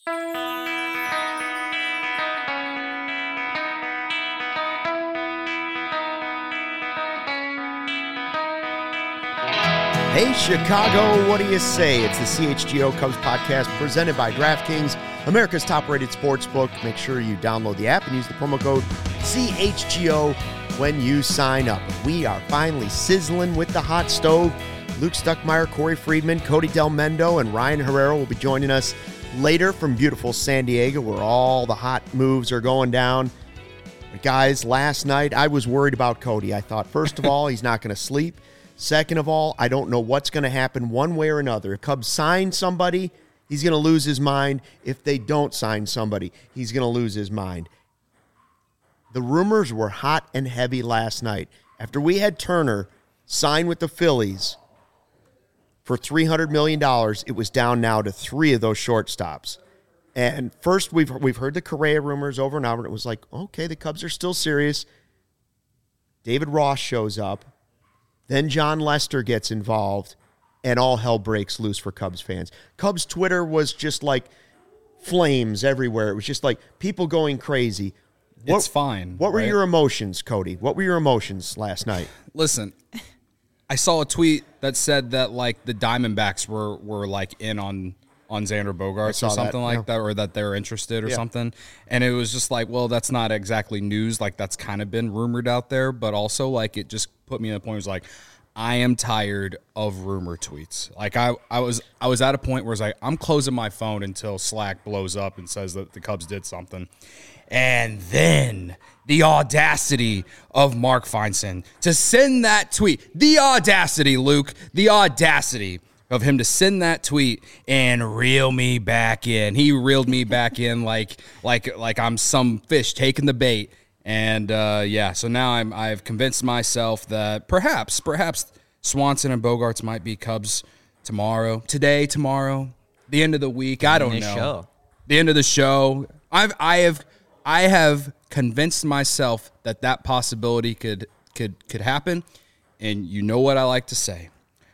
Hey, Chicago, what do you say? It's the CHGO Cubs podcast presented by DraftKings, America's top-rated sportsbook. Make sure you download the app and use the promo code CHGO when you sign up. We are finally sizzling with the hot stove. Luke Stuckmeyer, Corey Friedman, Cody Del Mendo, and Ryan Herrera will be joining us later from beautiful San Diego, where all the hot moves are going down. But guys, last night I was worried about Cody. I thought, first of all, he's not going to sleep. Second of all, I don't know what's going to happen one way or another. If Cubs sign somebody, he's going to lose his mind. If they don't sign somebody, he's going to lose his mind. The rumors were hot and heavy last night. After we had Turner sign with the Phillies for $300 million, it was down now to 3 of those shortstops. And first, we've heard the Correa rumors over and over, and it was like, okay, the Cubs are still serious. David Ross shows up. Then John Lester gets involved, and all hell breaks loose for Cubs fans. Cubs Twitter was just like flames everywhere. It was just like people going crazy. It's fine. What were your emotions, Cody? What were your emotions last night? Listen, I saw a tweet that said that like the Diamondbacks were like in on Xander Bogaerts or something like that, or that they're interested or something. And it was just like, well, that's not exactly news. Like that's kind of been rumored out there, but also like it just put me in a point where it was like, I am tired of rumor tweets. Like I was at a point where it's like, I'm closing my phone until Slack blows up and says that the Cubs did something. And then the audacity of Mark Feinstein to send that tweet. The audacity, Luke. The audacity of him to send that tweet and reel me back in. He reeled me back in like I'm some fish taking the bait. And so now I've convinced myself that perhaps Swanson and Bogaerts might be Cubs tomorrow, the end of the week. I don't know. The end of the show. I have convinced myself that possibility could happen. And you know what I like to say.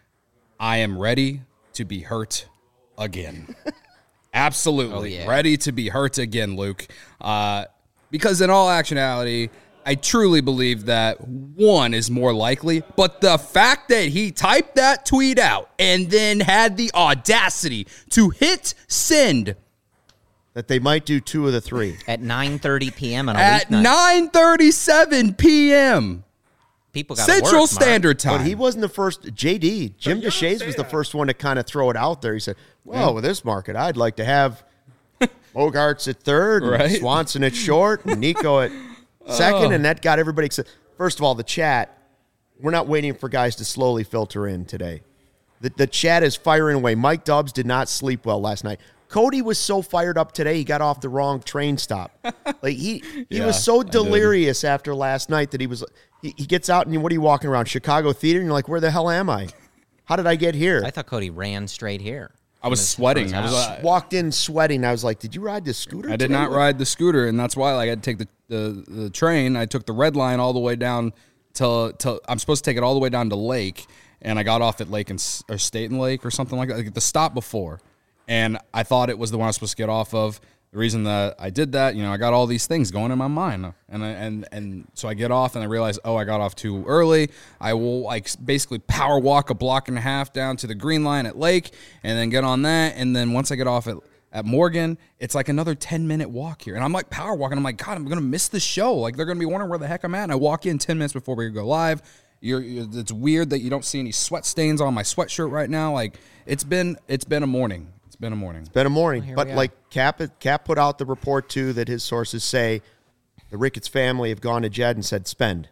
I am ready to be hurt again. Absolutely. Ready to be hurt again, Luke. Because in all actuality, I truly believe that one is more likely, but the fact that he typed that tweet out and then had the audacity to hit send. That they might do 2 of the 3. At 9:30 p.m. on a At weeknight. 9:37 p.m. People got Central Standard Time. But he wasn't the first. JD, Jim DeShays was the first one to kind of throw it out there. He said, well, with this market, I'd like to have Bogaerts at third, and Swanson at short, and Nico at second, and that got everybody excited. First of all, the chat, we're not waiting for guys to slowly filter in today. The chat is firing away. Mike Dubs did not sleep well last night. Cody was so fired up today, he got off the wrong train stop. Like he was so delirious after last night that he gets out and what are you walking around? Chicago Theater? And you're like, where the hell am I? How did I get here? I thought Cody ran straight here. I was sweating. I walked in sweating. I was like, did you ride the scooter? I did not ride the scooter, and that's why I had to take the train. I took the red line all the way down till I'm supposed to take it all the way down to Lake, and I got off at Lake or Staten Lake or something like that, like the stop before. And I thought it was the one I was supposed to get off of. The reason that I did that, I got all these things going in my mind, and so I get off and I realize, I got off too early. I will basically power walk a block and a half down to the green line at Lake, and then get on that. And then once I get off at Morgan, it's like another 10-minute walk here, and I'm like power walking. I'm like, God, I'm gonna miss the show. Like they're gonna be wondering where the heck I'm at. And I walk in 10 minutes before we go live. It's weird that you don't see any sweat stains on my sweatshirt right now. Like it's been a morning. It's been a morning. But like Cap put out the report too that his sources say the Ricketts family have gone to Jed and said spend,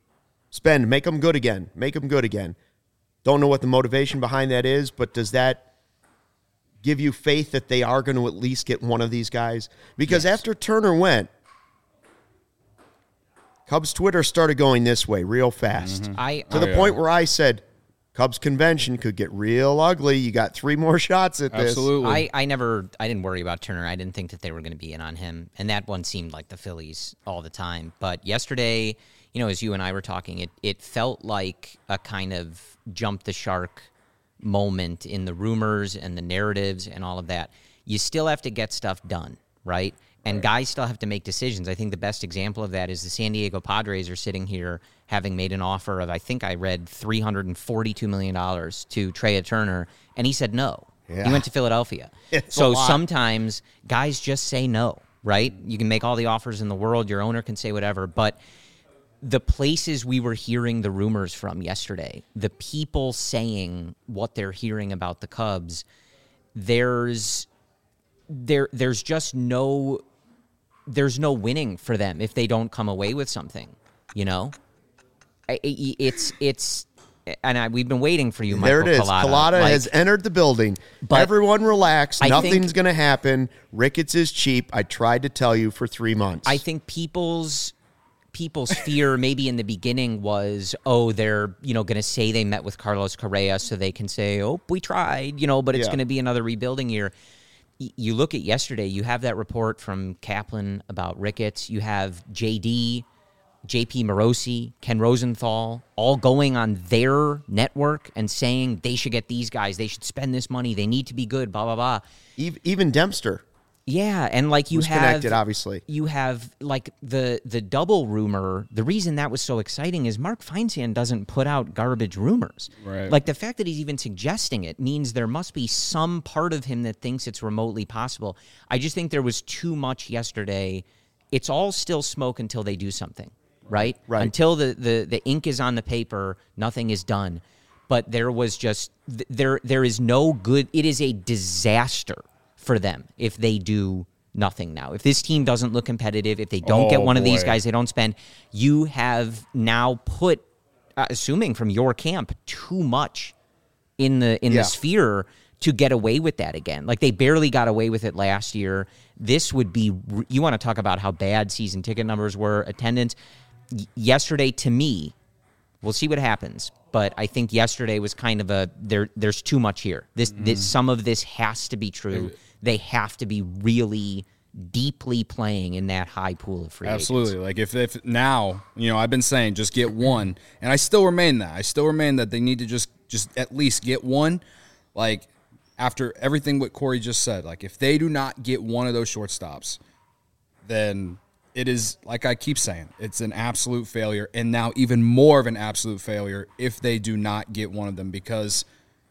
make them good again, Don't know what the motivation behind that is, but does that give you faith that they are going to at least get one of these guys? Because after Turner went, Cubs Twitter started going this way real fast. Mm-hmm. To the point where I said, Cubs convention could get real ugly. You got 3 more shots at this. Absolutely. I didn't worry about Turner. I didn't think that they were going to be in on him. And that one seemed like the Phillies all the time. But yesterday, as you and I were talking, it felt like a kind of jump the shark moment in the rumors and the narratives and all of that. you still have to get stuff done, right? And guys still have to make decisions. I think the best example of that is the San Diego Padres are sitting here having made an offer of, I think I read $342 million to Trea Turner, and he said no. Yeah. He went to Philadelphia. So sometimes guys just say no, right? You can make all the offers in the world. Your owner can say whatever. But the places we were hearing the rumors from yesterday, the people saying what they're hearing about the Cubs, there's just no winning for them if they don't come away with something, you know? We've been waiting for you, Michael. There it is. Collada has entered the building. Everyone relax. Nothing's going to happen. Ricketts is cheap. I tried to tell you for 3 months. I think people's fear maybe in the beginning was, they're, going to say they met with Carlos Correa so they can say, we tried, but it's going to be another rebuilding year. You look at yesterday, you have that report from Kaplan about Ricketts. You have JD, JP Morosi, Ken Rosenthal, all going on their network and saying they should get these guys. They should spend this money. They need to be good, blah, blah, blah. Even Dempster. Yeah, and you have connected, obviously. You have the double rumor. The reason that was so exciting is Mark Feinsand doesn't put out garbage rumors. Right. The fact that he's even suggesting it means there must be some part of him that thinks it's remotely possible. I just think there was too much yesterday. It's all still smoke until they do something, right? Right. Until the ink is on the paper, nothing is done. But there was just there is no good. It is a disaster for them if they do nothing now. If this team doesn't look competitive, if they don't get one of these guys, they don't spend, you have now put, assuming from your camp, too much in the sphere to get away with that again. They barely got away with it last year. This would be, you want to talk about how bad season ticket numbers were, attendance. Yesterday, to me, we'll see what happens, but I think yesterday was kind of there's too much here. This some of this has to be true. They have to be really deeply playing in that high pool of free agents. Absolutely. If now, I've been saying just get one, and I still remain that. I still remain that they need to just at least get one. After everything what Corey just said, if they do not get one of those shortstops, then it is, like I keep saying, it's an absolute failure, and now even more of an absolute failure if they do not get one of them because,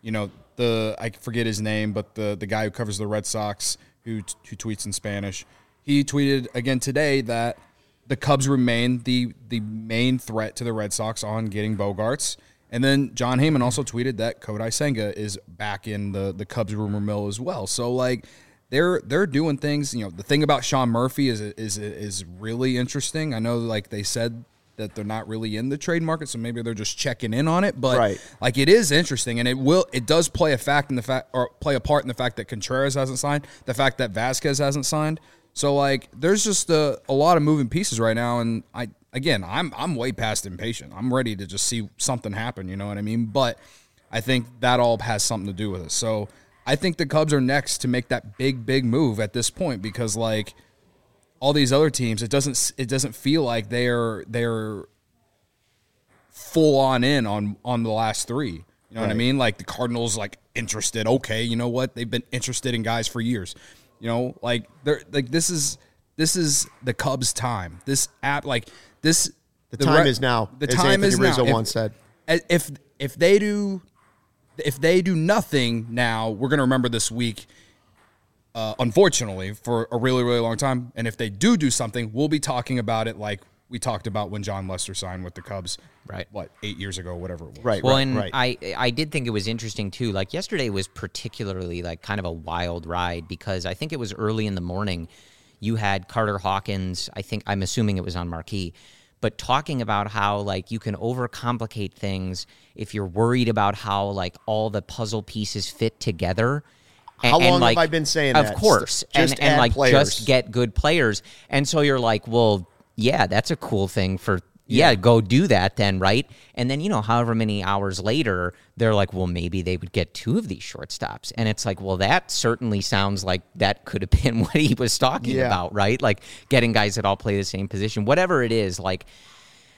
I forget his name, but the guy who covers the Red Sox who tweets in Spanish, he tweeted again today that the Cubs remain the main threat to the Red Sox on getting Bogaerts. And then John Heyman also tweeted that Kodai Senga is back in the Cubs rumor mill as well. So they're doing things. The thing about Sean Murphy is really interesting. I know they said that they're not really in the trade market, so maybe they're just checking in on it. But it is interesting, and it does play a part in the fact that Contreras hasn't signed, the fact that Vasquez hasn't signed. So there's just a lot of moving pieces right now, and I'm way past impatient. I'm ready to just see something happen. You know what I mean? But I think that all has something to do with it. So I think the Cubs are next to make that big move at this point because all these other teams, it doesn't feel like they're full on the last three. You know what I mean? The Cardinals interested. Okay, you know what? They've been interested in guys for years. This is the Cubs' time. This app this the time is now. The time is now. Rizzo once said. If they do nothing now, we're going to remember this week. Unfortunately, for a really, really long time. And if they do something, we'll be talking about it like we talked about when John Lester signed with the Cubs, 8 years ago, whatever it was. Right. I did think it was interesting, too. Yesterday was particularly, kind of a wild ride because I think it was early in the morning. You had Carter Hawkins, I'm assuming it was on Marquee, but talking about how, you can overcomplicate things if you're worried about how, all the puzzle pieces fit together. How long have I been saying that? Of course. Just get good players. And so you're well, yeah, that's a cool thing for, go do that then, right? And then, however many hours later, they're well, maybe they would get two of these shortstops. And it's well, that certainly sounds like that could have been what he was talking about, right? Getting guys that all play the same position. Whatever it is,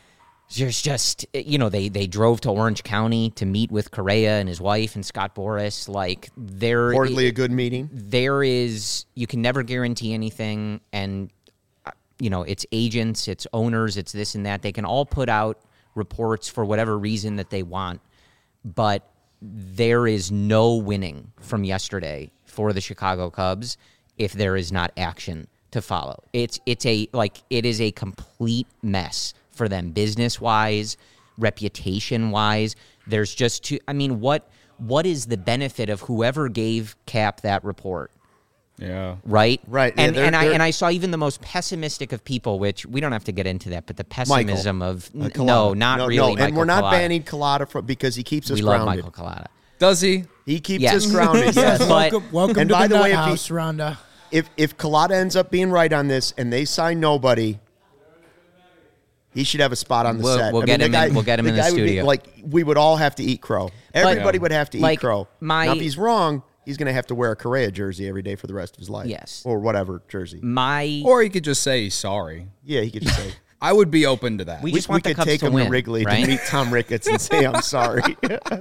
there's just, they drove to Orange County to meet with Correa and his wife and Scott Boras. Like, Reportedly a good meeting. You can never guarantee anything. And, it's agents, it's owners, it's this and that. They can all put out reports for whatever reason that they want. But there is no winning from yesterday for the Chicago Cubs if there is not action to follow. It is a complete mess for them, business-wise, reputation-wise. There's just what is the benefit of whoever gave Cap that report? Yeah. Right? Right. And, Yeah, I saw even the most pessimistic of people, which we don't have to get into that, but the pessimism of Collada. no, not really. No, and we're not Collada. banning Collada because he keeps us We grounded. love Michael Collada. Does he? He keeps Yes. us grounded. Yes. Yes. But- Welcome And to by the the way, nut if he- house, Rhonda. If Collada ends up being right on this and they sign nobody, he should have a spot on the set. We'll get him in the guy would be, studio. we would all have to eat crow. Everybody would have to eat crow. my- Now, if he's wrong, he's going to have to wear a Correa jersey every day for the rest of his life. Yes. Or whatever jersey. Or he could just say he's sorry. Yeah, he could just say. I would be open to that. We just want the could Cubs take to him win, to Wrigley right? to meet Tom Ricketts and say, I'm sorry.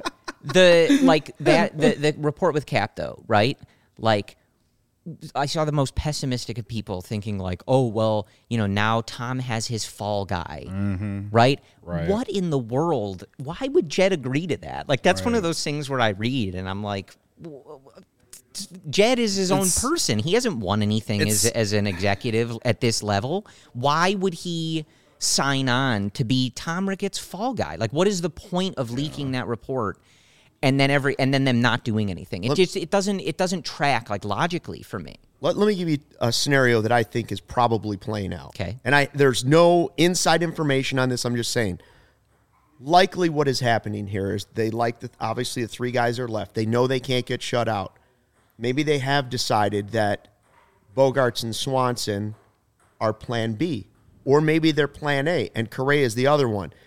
The report with Cap, though, right? Like, I saw the most pessimistic of people thinking like, oh, well, now Tom has his fall guy, right? Right. What in the world? Why would Jed agree to that? Like, that's one of those things where I read and I'm like, Jed is his own person. He hasn't won anything as an executive at this level. Why would he sign on to be Tom Ricketts' fall guy? Like, what is the point of leaking that report? And then them not doing anything. It doesn't track like logically for me. Let me give you a scenario that I think is probably playing out. Okay. And there's no inside information on this. I'm just saying. Likely what is happening here is they obviously the three guys are left. They know they can't get shut out. Maybe they have decided that Bogaerts and Swanson are plan B. Or maybe they're plan A and Correa is the other one.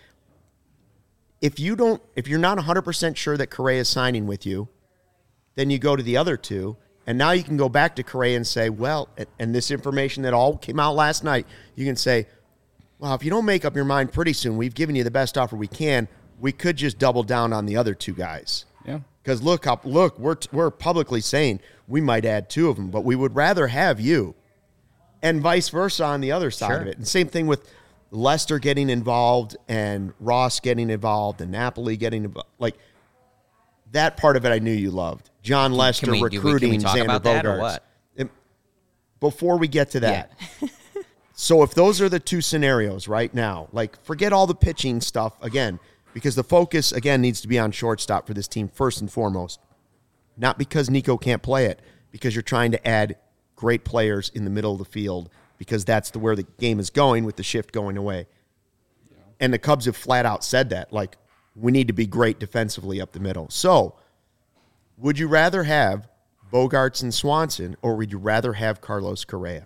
If you're not 100% sure that Correa is signing with you, then you go to the other two, and now you can go back to Correa and say, well, and this information that all came out last night, you can say, well, if you don't make up your mind pretty soon, we've given you the best offer we can. We could just double down on the other two guys. Yeah. Because look, we're publicly saying we might add two of them, but we would rather have you, and vice versa on the other side of it. And same thing with Lester getting involved and Ross getting involved and Napoli getting involved. Like, that part of it I knew you loved. John Lester recruiting can we talk Xander about that or Bogaerts. what? Before we get to that. Yeah. So if those are the two scenarios right now, like, forget all the pitching stuff again, because the focus, again, needs to be on shortstop for this team first and foremost. Not because Nico can't play it, because you're trying to add great players in the middle of the field, because that's where the game is going with the shift going away. Yeah. And the Cubs have flat out said that. Like, we need to be great defensively up the middle. So, would you rather have Bogaerts and Swanson, or would you rather have Carlos Correa?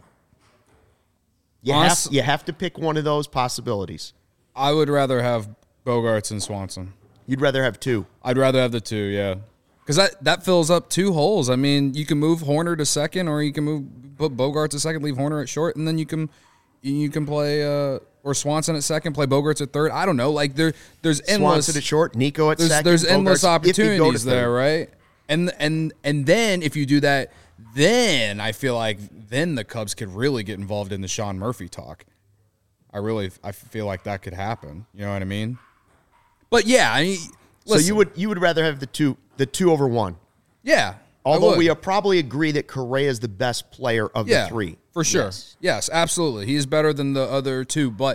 You have to pick one of those possibilities. I would rather have Bogaerts and Swanson. You'd rather have two. I'd rather have the two, yeah. Because that fills up two holes. I mean, you can move Horner to second, or you can put Bogaerts to second, leave Horner at short, and then you can play or Swanson at second, play Bogaerts at third. I don't know. Like, there's endless Swanson at short, Nico at second. There's endless Bogaerts, opportunities there, right? And then if you do that, then I feel like then the Cubs could really get involved in the Sean Murphy talk. I feel like that could happen. You know what I mean? But yeah, I mean, listen, so you would rather have the two over one. Yeah. Although we probably agree that Correa is the best player of the three. For sure. Yes, absolutely. He is better than the other two. But,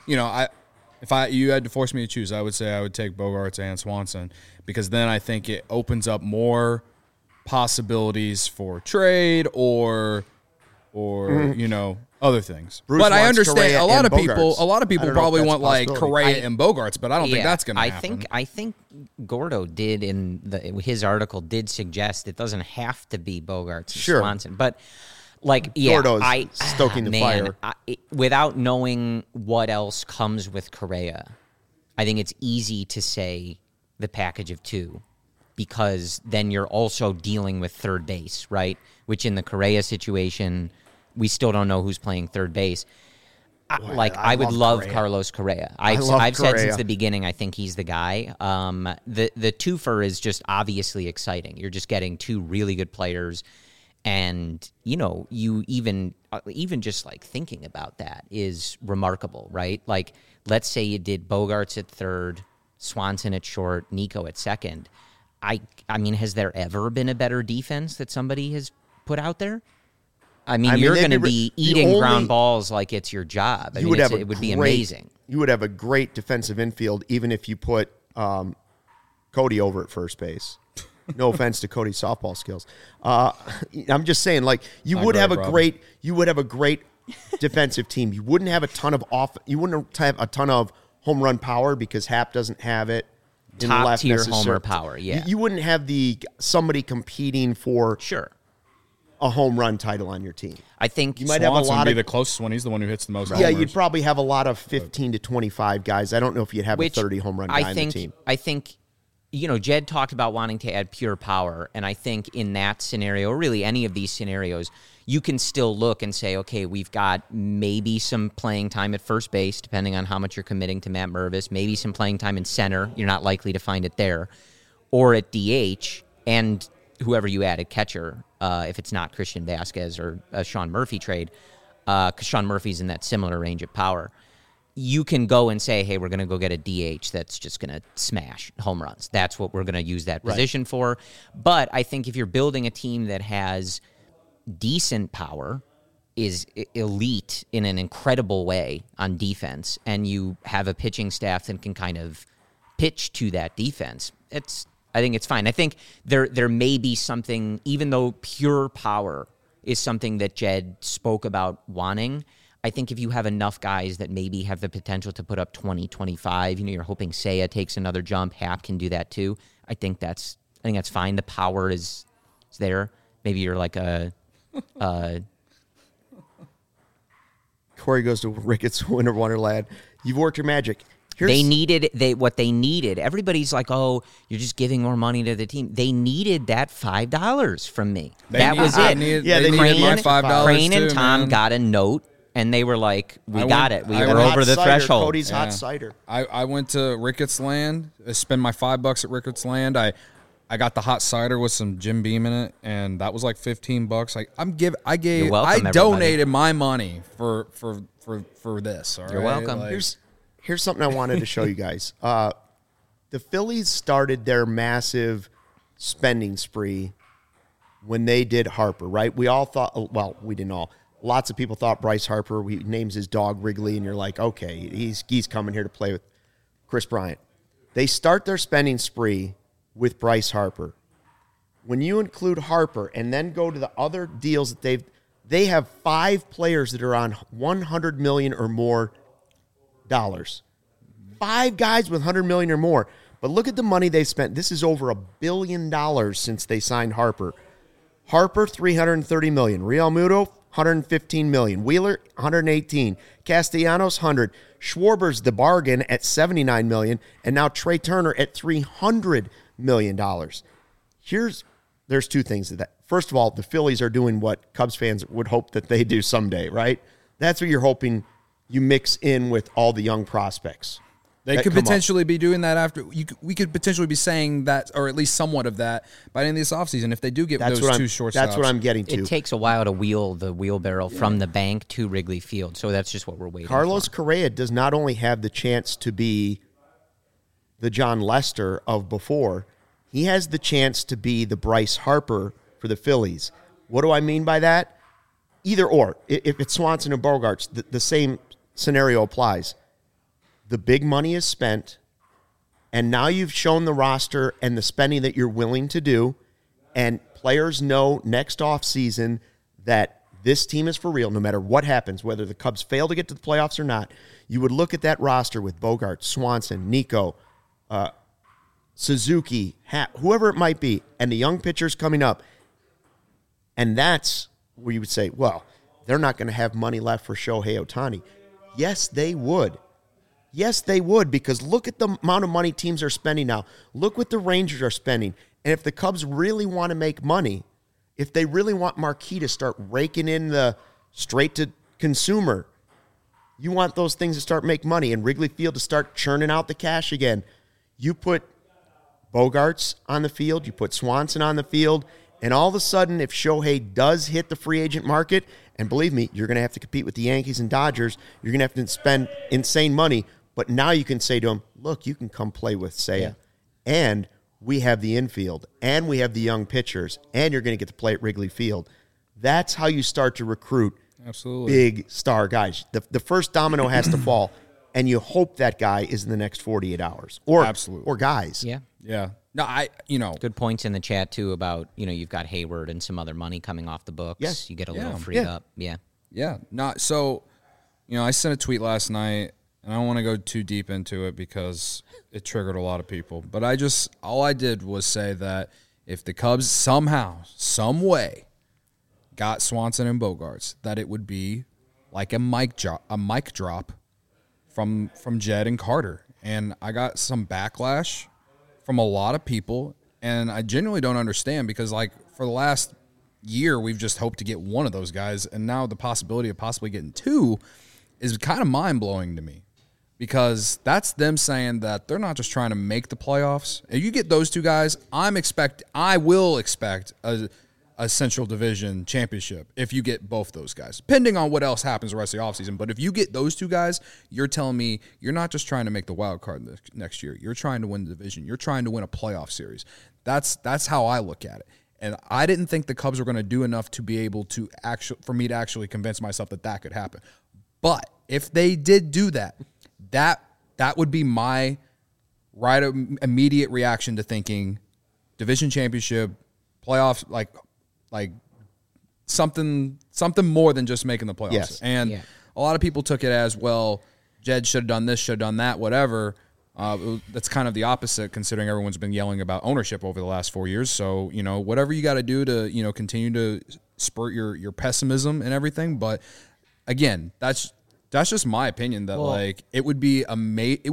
if you had to force me to choose, I would say I would take Bogaerts and Swanson, because then I think it opens up more possibilities for trade or other things. Bruce but I wants understand Correa a lot and of people Bogaerts. probably that's want a like possibility. Correa and Bogaerts, but I don't think that's going to happen. I think Gordo did his article did suggest it doesn't have to be Bogaerts and Swanson, but Gordo's stoking the fire. Without knowing what else comes with Correa, I think it's easy to say the package of two, because then you're also dealing with third base, right? Which in the Correa situation, we still don't know who's playing third base. I would love Correa. Carlos Correa. I've said since the beginning, I think he's the guy. The twofer is just obviously exciting. You're just getting two really good players, and you even just like thinking about that is remarkable, right? Like, let's say you did Bogaerts at third, Swanson at short, Nico at second. I mean, has there ever been a better defense that somebody has put out there? I mean, you're going to be eating ground balls like it's your job. It would be amazing. You would have a great defensive infield even if you put Cody over at first base. No offense to Cody's softball skills. I'm just saying, like, you would have a great defensive team. You wouldn't have a ton of home run power because Happ doesn't have it. Top tier homer power, yeah. You wouldn't have somebody competing for a home run title on your team. I think you might have a lot of the closest one. He's the one who hits the most. Yeah, you'd probably have a lot of 15 to 25 guys. I don't know if you'd have a 30 home run guy on the team. I think, Jed talked about wanting to add pure power, and I think in that scenario, or really any of these scenarios, you can still look and say, okay, we've got maybe some playing time at first base, depending on how much you're committing to Matt Mervis, maybe some playing time in center. You're not likely to find it there. Or at DH, and whoever you add at catcher, if it's not Christian Vasquez or a Sean Murphy trade, because Sean Murphy's in that similar range of power. You can go and say, hey, we're going to go get a DH that's just going to smash home runs. That's what we're going to use that position for. But I think if you're building a team that has decent power, is elite in an incredible way on defense, and you have a pitching staff that can kind of pitch to that defense, I think it's fine. I think there may be something, even though pure power is something that Jed spoke about wanting, I think if you have enough guys that maybe have the potential to put up 20, 25, you're hoping Seiya takes another jump, Happ can do that too. I think that's fine. The power is there. Maybe you're like Corey goes to Ricketts Winter Wonderland. You've worked your magic. What they needed. Everybody's like, oh, you're just giving more money to the team. They needed that $5 from me. That was it. They needed my $5 Crane and too, Tom man. got a note, and they were like, we got it. We were over the threshold. Cody's hot cider. I went to Ricketts Land, spent my $5 at Ricketts Land. I got the hot cider with some Jim Beam in it, and that was like $15. I donated my money for this. All You're right? welcome. Here's something I wanted to show you guys. The Phillies started their massive spending spree when they did Harper, right? We all thought, well, we didn't all. Lots of people thought Bryce Harper, he names his dog Wrigley, and you're like, okay, he's coming here to play with Chris Bryant. They start their spending spree with Bryce Harper. When you include Harper and then go to the other deals that they have 5 players that are on $100 million or more dollars. 5 guys with $100 million or more. But look at the money they spent. This is over $1 billion since they signed Harper. Harper, $330 million. Real Muto, $115 million. Wheeler, $118. Castellanos, $100. Schwarber's the bargain at $79 million, and now Trey Turner at $300 million. There's 2 things to that. First of all, the Phillies are doing what Cubs fans would hope that they do someday, right? That's what you're hoping you mix in with all the young prospects. They could potentially be doing that after. We could potentially be saying that, or at least somewhat of that, by the end of this offseason if they do get those 2 shortstops. That's what I'm getting to. It takes a while to wheel the wheelbarrow from the bank to Wrigley Field, so that's just what we're waiting for. Carlos Correa does not only have the chance to be the John Lester of before, he has the chance to be the Bryce Harper for the Phillies. What do I mean by that? Either or. If it's Swanson and Bogaerts, the same scenario applies. The big money is spent, and now you've shown the roster and the spending that you're willing to do, and players know next offseason that this team is for real no matter what happens, whether the Cubs fail to get to the playoffs or not. You would look at that roster with Bogaerts, Swanson, Nico, Suzuki, whoever it might be, and the young pitchers coming up, and that's where you would say, well, they're not going to have money left for Shohei Ohtani. Yes, they would. Yes, they would, because look at the amount of money teams are spending now. Look what the Rangers are spending. And if the Cubs really want to make money, if they really want Marquee to start raking in the straight-to-consumer, You want those things to start make money and Wrigley Field to start churning out the cash again. You put Bogaerts on the field, you put Swanson on the field, and all of a sudden, if Shohei does hit the free agent market, and believe me, you're going to have to compete with the Yankees and Dodgers, you're going to have to spend insane money, but now you can say to him, look, you can come play with Seiya, and we have the infield, and we have the young pitchers, and you're going to get to play at Wrigley Field. That's how you start to recruit big star guys. The first domino has to fall, and you hope that guy is in the next 48 hours. Or guys. Yeah. Yeah. No, good points in the chat, too, about, you've got Hayward and some other money coming off the books. Yes. You get a little freed up. Yeah. Yeah. So, I sent a tweet last night, and I don't want to go too deep into it because it triggered a lot of people. But all I did was say that if the Cubs somehow, some way, got Swanson and Bogaerts, that it would be like a mic drop from Jed and Carter. And I got some backlash from a lot of people, and I genuinely don't understand because, for the last year, we've just hoped to get one of those guys, and now the possibility of possibly getting two is kind of mind-blowing to me because that's them saying that they're not just trying to make the playoffs. If you get those two guys, I will expect a Central Division championship if you get both those guys, depending on what else happens the rest of the offseason. But if you get those two guys, you're telling me you're not just trying to make the wild card next year. You're trying to win the division. You're trying to win a playoff series. That's how I look at it. And I didn't think the Cubs were going to do enough to be able to for me to actually convince myself that could happen. But if they did do that, that would be my immediate reaction to thinking division championship, playoffs, like something more than just making the playoffs. Yes. And a lot of people took it as, well, Jed should have done this, should have done that, whatever. That's kind of the opposite considering everyone's been yelling about ownership over the last 4 years. So, whatever you got to do to, continue to spurt your pessimism and everything. But again, that's just my opinion that it would be a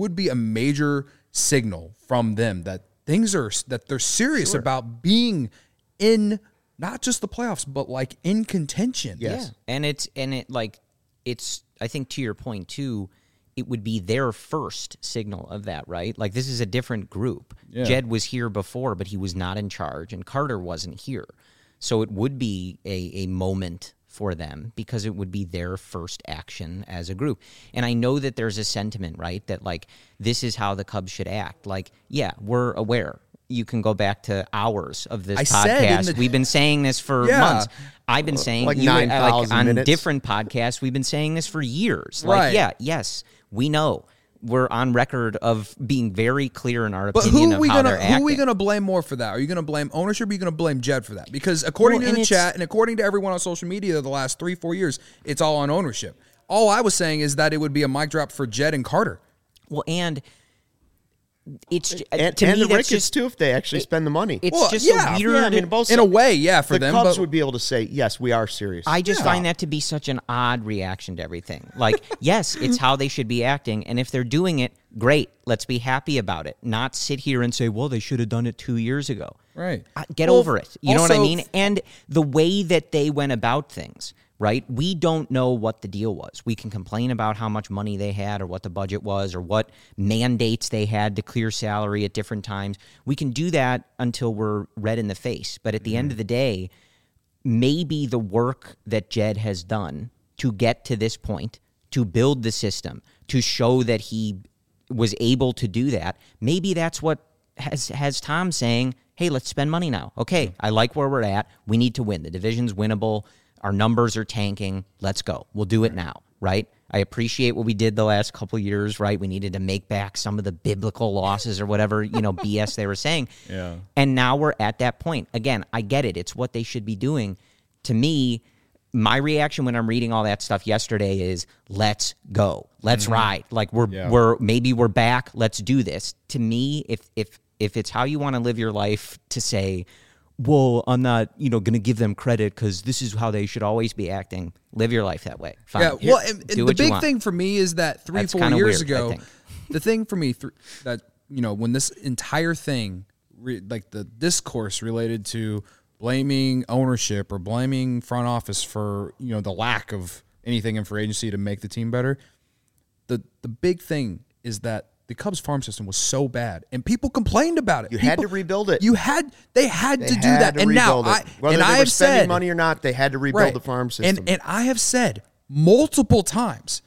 major signal from them that that they're serious about being in not just the playoffs, but in contention. Yes. Yeah. And it's I think to your point too, it would be their first signal of that, right? This is a different group. Yeah. Jed was here before, but he was not in charge, and Carter wasn't here. So it would be a moment for them because it would be their first action as a group. And I know that there's a sentiment, right, that this is how the Cubs should act. We're aware. You can go back to hours of this podcast. We've been saying this for months. I've been saying 9,000 on minutes. Different podcasts. We've been saying this for years. Right. Yes, we know. We're on record of being very clear in our opinion of how they're acting. Who are we going to blame more for that? Are you going to blame ownership or are you going to blame Jed for that? Because according to the chat and according to everyone on social media the last 3-4 years, it's all on ownership. All I was saying is that it would be a mic drop for Jed and Carter. Well, and it's to me the Ricketts Ricketts too if they actually spend the money. It's just a weird. Yeah, I mean, both in a way, for the them. Cubs would be able to say, yes, we are serious. I just find that to be such an odd reaction to everything. Yes, it's how they should be acting, and if they're doing it, great. Let's be happy about it. Not sit here and say, well, they should have done it 2 years ago. Right. Get over it. You know what I mean? And the way that they went about things. Right? We don't know what the deal was. We can complain about how much money they had or what the budget was or what mandates they had to clear salary at different times. We can do that until we're red in the face. But at the end of the day, maybe the work that Jed has done to get to this point, to build the system, to show that he was able to do that, maybe that's what has Tom saying, hey, let's spend money now. Okay, I like where we're at. We need to win. The division's winnable. Our numbers are tanking. Let's go. We'll do it now, right? I appreciate what we did the last couple of years, right? We needed to make back some of the biblical losses or whatever, BS they were saying. Yeah. And now we're at that point. Again, I get it. It's what they should be doing. To me, my reaction when I'm reading all that stuff yesterday is, let's go. Let's ride. We're back. Let's do this. To me, if it's how you want to live your life to say, well, I'm not, going to give them credit because this is how they should always be acting. Live your life that way. Fine. Yeah, well, and the big thing for me is that 3-4 years ago, the thing for me that, when this entire thing, the discourse related to blaming ownership or blaming front office for, the lack of anything in free agency to make the team better, the big thing is that the Cubs farm system was so bad, and people complained about it. You had to rebuild it. They had to do that, and now whether they were spending money or not, they had to rebuild the farm system. And I have said multiple times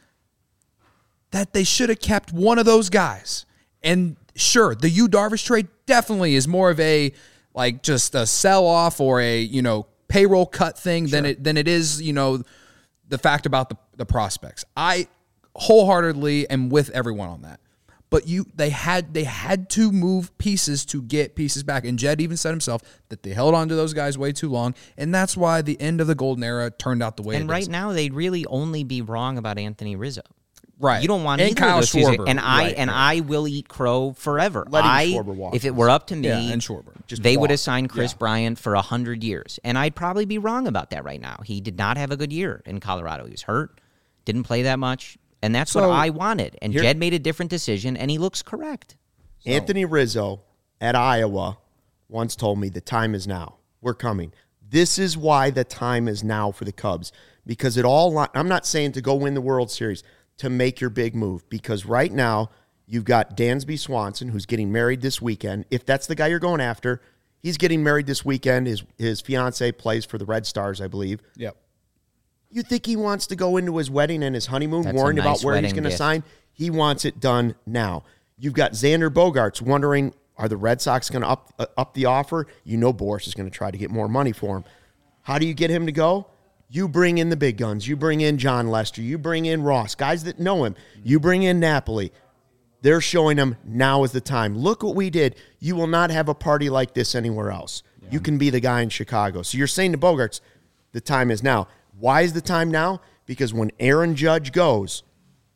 that they should have kept one of those guys. And sure, the Yu Darvish trade definitely is more of a like just a sell off or a payroll cut thing than it is the fact about the prospects. I wholeheartedly am with everyone on that. But they had to move pieces to get pieces back. And Jed even said himself that they held on to those guys way too long. And that's why the end of the golden era turned out the way it is. And right now, they'd really only be wrong about Anthony Rizzo. Right. You don't want and either Kyle of those Schwarber. And I will eat crow forever. Schwarber walk. If it were up to me, and Schwarber. They would have signed Chris Bryant for 100 years. And I'd probably be wrong about that right now. He did not have a good year in Colorado. He was hurt, didn't play that much. And that's what I wanted. And Jed made a different decision, and he looks correct. So. Anthony Rizzo at Iowa once told me the time is now. We're coming. This is why the time is now for the Cubs. Because I'm not saying to go win the World Series, to make your big move. Because right now, you've got Dansby Swanson, who's getting married this weekend. If that's the guy you're going after, he's getting married this weekend. His fiance plays for the Red Stars, I believe. Yep. You think he wants to go into his wedding and his honeymoon worrying about where he's going to sign? He wants it done now. You've got Xander Bogaerts wondering, are the Red Sox going to up the offer? Boris is going to try to get more money for him. How do you get him to go? You bring in the big guns. You bring in John Lester. You bring in Ross, guys that know him. You bring in Napoli. They're showing him now is the time. Look what we did. You will not have a party like this anywhere else. Yeah. You can be the guy in Chicago. So you're saying to Bogaerts, the time is now. Why is the time now? Because when Aaron Judge goes,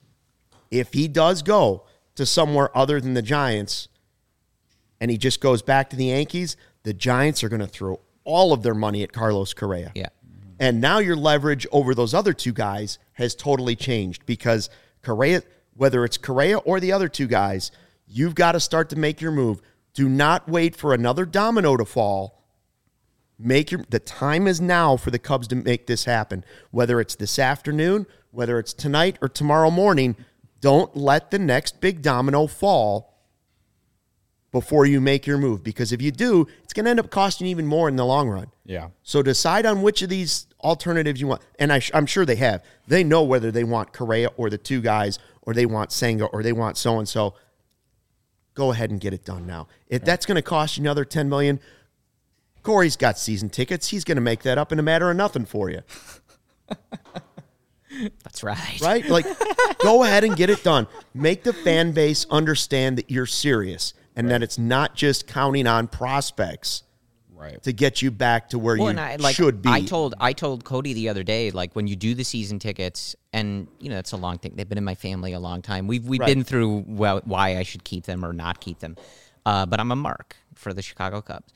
if he does go to somewhere other than the Giants and he just goes back to the Yankees, the Giants are going to throw all of their money at Carlos Correa. Yeah. And now your leverage over those other two guys has totally changed because Correa, whether it's Correa or the other two guys, you've got to start to make your move. Do not wait for another domino to fall. The time is now for the Cubs to make this happen. Whether it's this afternoon, whether it's tonight or tomorrow morning, don't let the next big domino fall before you make your move. Because if you do, it's going to end up costing you even more in the long run. Yeah. So decide on which of these alternatives you want. And I'm sure they have. They know whether they want Correa or the two guys, or they want Senga, or they want so-and-so. Go ahead and get it done now. If that's going to cost you another $10 million, Corey's got season tickets. He's going to make that up in a matter of nothing for you. That's right. Right? Like, go ahead and get it done. Make the fan base understand that you're serious and that it's not just counting on prospects to get you back to where should be. I told Cody the other day, like, when you do the season tickets, and, it's a long thing. They've been in my family a long time. We've been through why I should keep them or not keep them. But I'm a mark for the Chicago Cubs.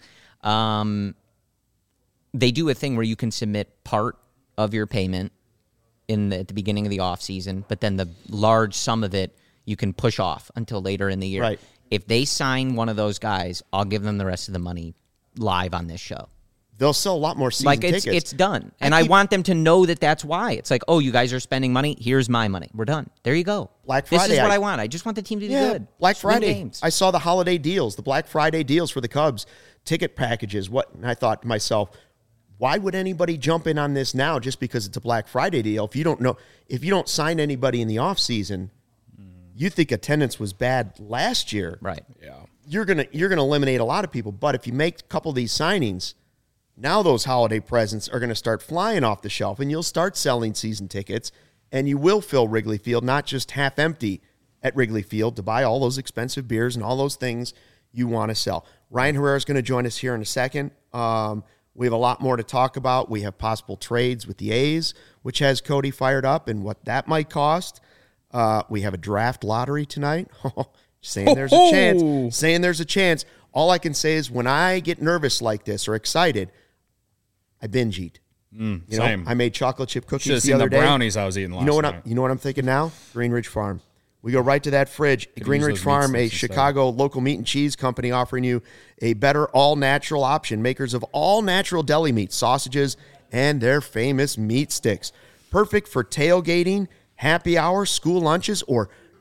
They do a thing where you can submit part of your payment at the beginning of the off season, but then the large sum of it you can push off until later in the year. Right. If they sign one of those guys, I'll give them the rest of the money live on this show. They'll sell a lot more season tickets. It's done. And I want them to know that that's why. It's like, oh, you guys are spending money. Here's my money. We're done. There you go. Black Friday. This is what I want. I just want the team to do good. Black Friday. Games. I saw the holiday deals, the Black Friday deals for the Cubs, ticket packages. And I thought to myself, why would anybody jump in on this now just because it's a Black Friday deal? If you don't sign anybody in the offseason, you think attendance was bad last year. Right. Yeah. You're gonna eliminate a lot of people. But if you make a couple of these signings, now those holiday presents are going to start flying off the shelf, and you'll start selling season tickets, and you will fill Wrigley Field, not just half empty at Wrigley Field, to buy all those expensive beers and all those things you want to sell. Ryan Herrera is going to join us here in a second. We have a lot more to talk about. We have possible trades with the A's, which has Cody fired up, and what that might cost. We have a draft lottery tonight. Saying there's a chance. All I can say is when I get nervous like this or excited, I binge eat. Same. I made chocolate chip cookies Should've the other day. Brownies I was eating last night. You know what I'm thinking now? Greenridge Farm. We go right to that fridge. Greenridge Farm, a Chicago local meat and cheese company, offering you a better all-natural option. Makers of all-natural deli meat, sausages, and their famous meat sticks. Perfect for tailgating, happy hour, school lunches, or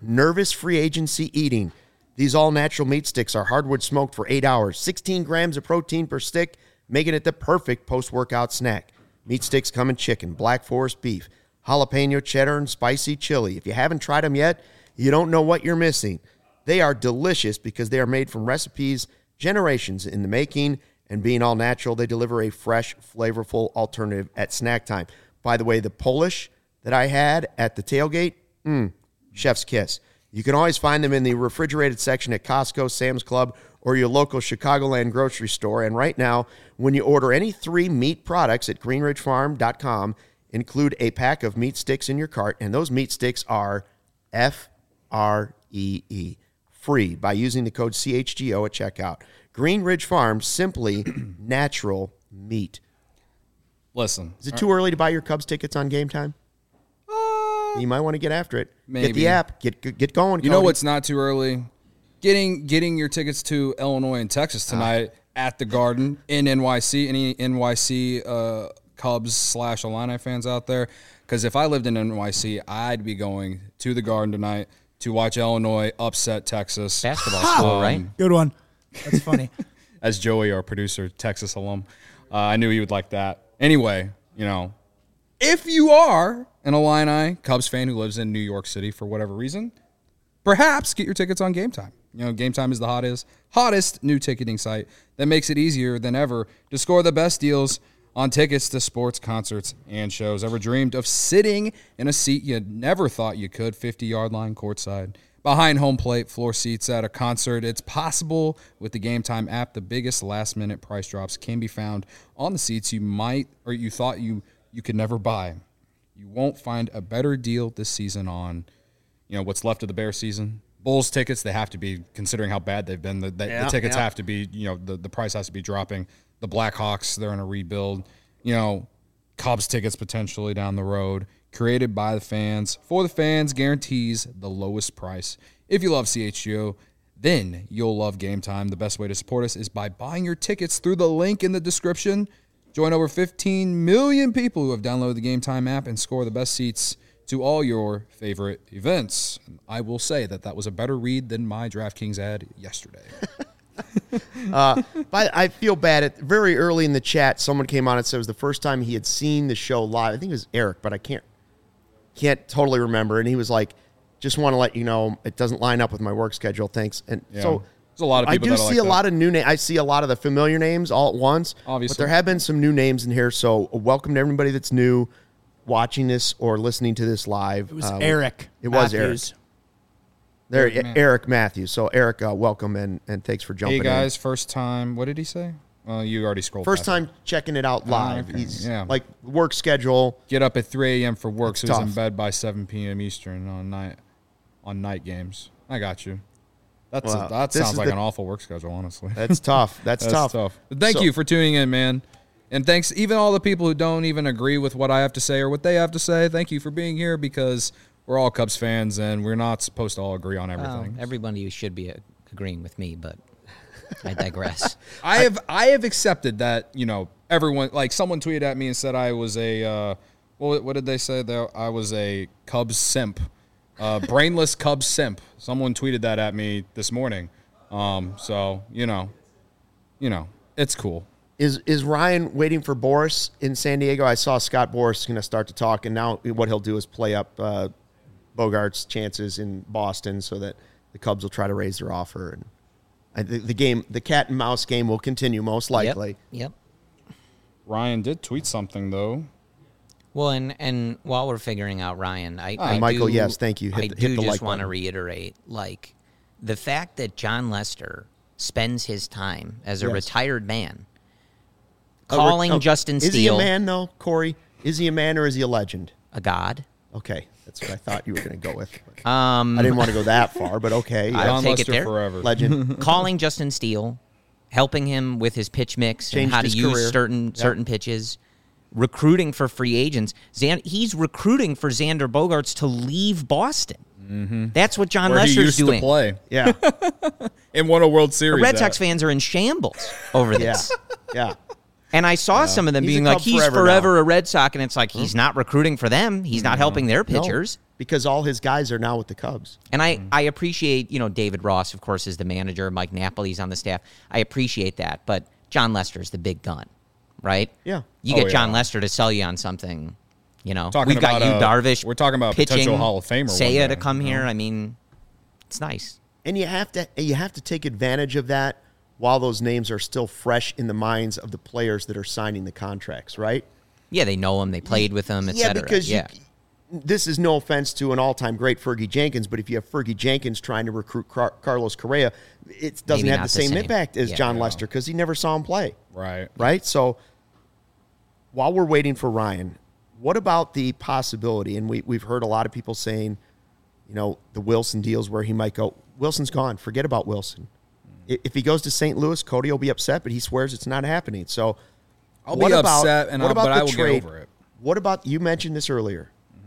nervous free agency eating. These all-natural meat sticks are hardwood smoked for 8 hours, 16 grams of protein per stick, making it the perfect post-workout snack. Meat sticks come in chicken, Black Forest beef, jalapeno cheddar, and spicy chili. If you haven't tried them yet, you don't know what you're missing. They are delicious because they are made from recipes generations in the making, and being all natural, they deliver a fresh, flavorful alternative at snack time. By the way, the Polish that I had at the tailgate, chef's kiss. You can always find them in the refrigerated section at Costco, Sam's Club, or your local Chicagoland grocery store. And right now, when you order any 3 meat products at greenridgefarm.com, include a pack of meat sticks in your cart, and those meat sticks are FREE, free, by using the code CHGO at checkout. Green Ridge Farm, simply natural meat. Listen. Is it too early to buy your Cubs tickets on Game Time? You might want to get after it. Maybe. Get the app. Get going, Cody. You know what's not too early? Getting your tickets to Illinois and Texas tonight at the Garden in NYC. Any NYC Cubs/Illini fans out there? Because if I lived in NYC, I'd be going to the Garden tonight to watch Illinois upset Texas. Basketball school, right? Good one. That's funny. As Joey, our producer, Texas alum, I knew he would like that. Anyway, if you are an Illini Cubs fan who lives in New York City for whatever reason, perhaps get your tickets on Game Time. Game Time is the hottest new ticketing site that makes it easier than ever to score the best deals on tickets to sports, concerts, and shows. Ever dreamed of sitting in a seat you never thought you could, 50-yard line courtside, behind home plate, floor seats at a concert? It's possible with the Game Time app. The biggest last-minute price drops can be found on the seats you thought you could never buy. You won't find a better deal this season on, what's left of the Bears season. Bulls tickets, they have to be, considering how bad they've been, the tickets have to be, the price has to be dropping. The Blackhawks, they're in a rebuild. Cubs tickets potentially down the road. Created by the fans, for the fans, guarantees the lowest price. If you love CHGO, then you'll love Game Time. The best way to support us is by buying your tickets through the link in the description. Join over 15 million people who have downloaded the Game Time app and score the best seats to all your favorite events. I will say that was a better read than my DraftKings ad yesterday. But I feel bad. Very early in the chat, someone came on and said it was the first time he had seen the show live. I think it was Eric, but I can't totally remember. And he was like, just want to let you know it doesn't line up with my work schedule. Thanks. And so there's a lot of people I do see a lot of new names. I see a lot of the familiar names all at once. Obviously. But there have been some new names in here. So welcome to everybody that's new watching this or listening to this live. It was Eric. It was Matthews. Eric. Eric Matthews. So Eric, welcome and thanks for jumping in. Hey guys, first time. What did he say? Well, you already scrolled. First time checking it out live. Okay. He's like work schedule. Get up at 3 a.m. for work, so tough. he's in bed by 7 p.m. Eastern on night games. I got you. That sounds like an awful work schedule, honestly. That's tough. That's tough. Thank you for tuning in, man. And thanks, even all the people who don't even agree with what I have to say or what they have to say. Thank you for being here, because we're all Cubs fans, and we're not supposed to all agree on everything. Everybody should be agreeing with me, but I digress. I have accepted that, everyone, like someone tweeted at me and said I was a, what did they say there? I was a Cubs simp, brainless Cubs simp. Someone tweeted that at me this morning. So, it's cool. Is Ryan waiting for Boris in San Diego? I saw Scott Boras going to start to talk, and now what he'll do is play up Bogart's chances in Boston so that the Cubs will try to raise their offer. And the cat and mouse game will continue most likely. Yep. Ryan did tweet something though. Well, and while we're figuring out Ryan, Michael, yes, thank you. I just want to reiterate, the fact that John Lester spends his time as a retired man calling Justin Steele. Is he a man, though, Corey? Is he a man or is he a legend? A god. Okay, that's what I thought you were going to go with. I didn't want to go that far, but okay. I'll take it there. Forever. Legend. Calling Justin Steele, helping him with his pitch mix and how to use certain pitches, recruiting for free agents. He's recruiting for Xander Bogaerts to leave Boston. Mm-hmm. That's what John Lester's doing. To play. Yeah. And won a World Series. The Red Sox fans are in shambles over this. Yeah. And I saw some of them being like, he's forever a Red Sox, and it's like, he's not recruiting for them. He's not helping their pitchers. No, because all his guys are now with the Cubs. And I appreciate, David Ross, of course, is the manager. Mike Napoli's on the staff. I appreciate that. But John Lester's the big gun, right? Yeah. You get John Lester to sell you on something, We've got about, Darvish. We're talking about pitching, potential Hall of Famer. Seiya to come here. I mean, it's nice. And you have to take advantage of that while those names are still fresh in the minds of the players that are signing the contracts, right? Yeah, they know him, they played with him, etc. Yeah, because this is no offense to an all-time great Fergie Jenkins, but if you have Fergie Jenkins trying to recruit Carlos Correa, it doesn't have the same impact as John Lester because he never saw him play. Right? So while we're waiting for Ryan, what about the possibility, and we've heard a lot of people saying, the Wilson deals where he might go, Wilson's gone, forget about Wilson. If he goes to St. Louis, Cody will be upset, but he swears it's not happening. So I'll be upset, but I will get over it. What about, you mentioned this earlier,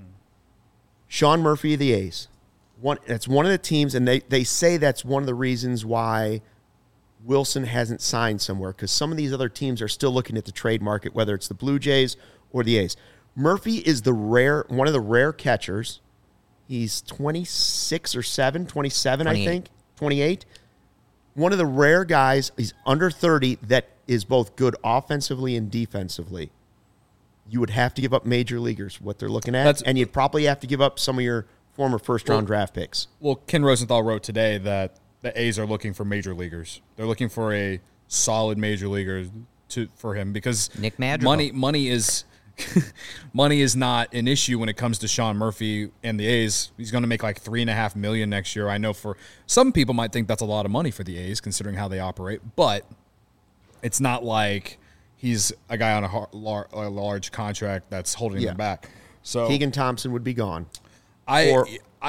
Sean Murphy of the A's. That's one of the teams, and they say that's one of the reasons why Wilson hasn't signed somewhere, because some of these other teams are still looking at the trade market, whether it's the Blue Jays or the A's. Murphy is one of the rare catchers. He's 26 or 27, 28. I think, 28. One of the rare guys, he's under 30, that is both good offensively and defensively. You would have to give up major leaguers, what they're looking at, and you'd probably have to give up some of your former first-round draft picks. Well, Ken Rosenthal wrote today that the A's are looking for major leaguers. They're looking for a solid major leaguer for him because Nick Madrigal. Money is money is not an issue when it comes to Sean Murphy and the A's. He's going to make like $3.5 million next year. I know for some people might think that's a lot of money for the A's considering how they operate, but it's not like he's a guy on a large contract that's holding them back. So Keegan Thompson would be gone. I'd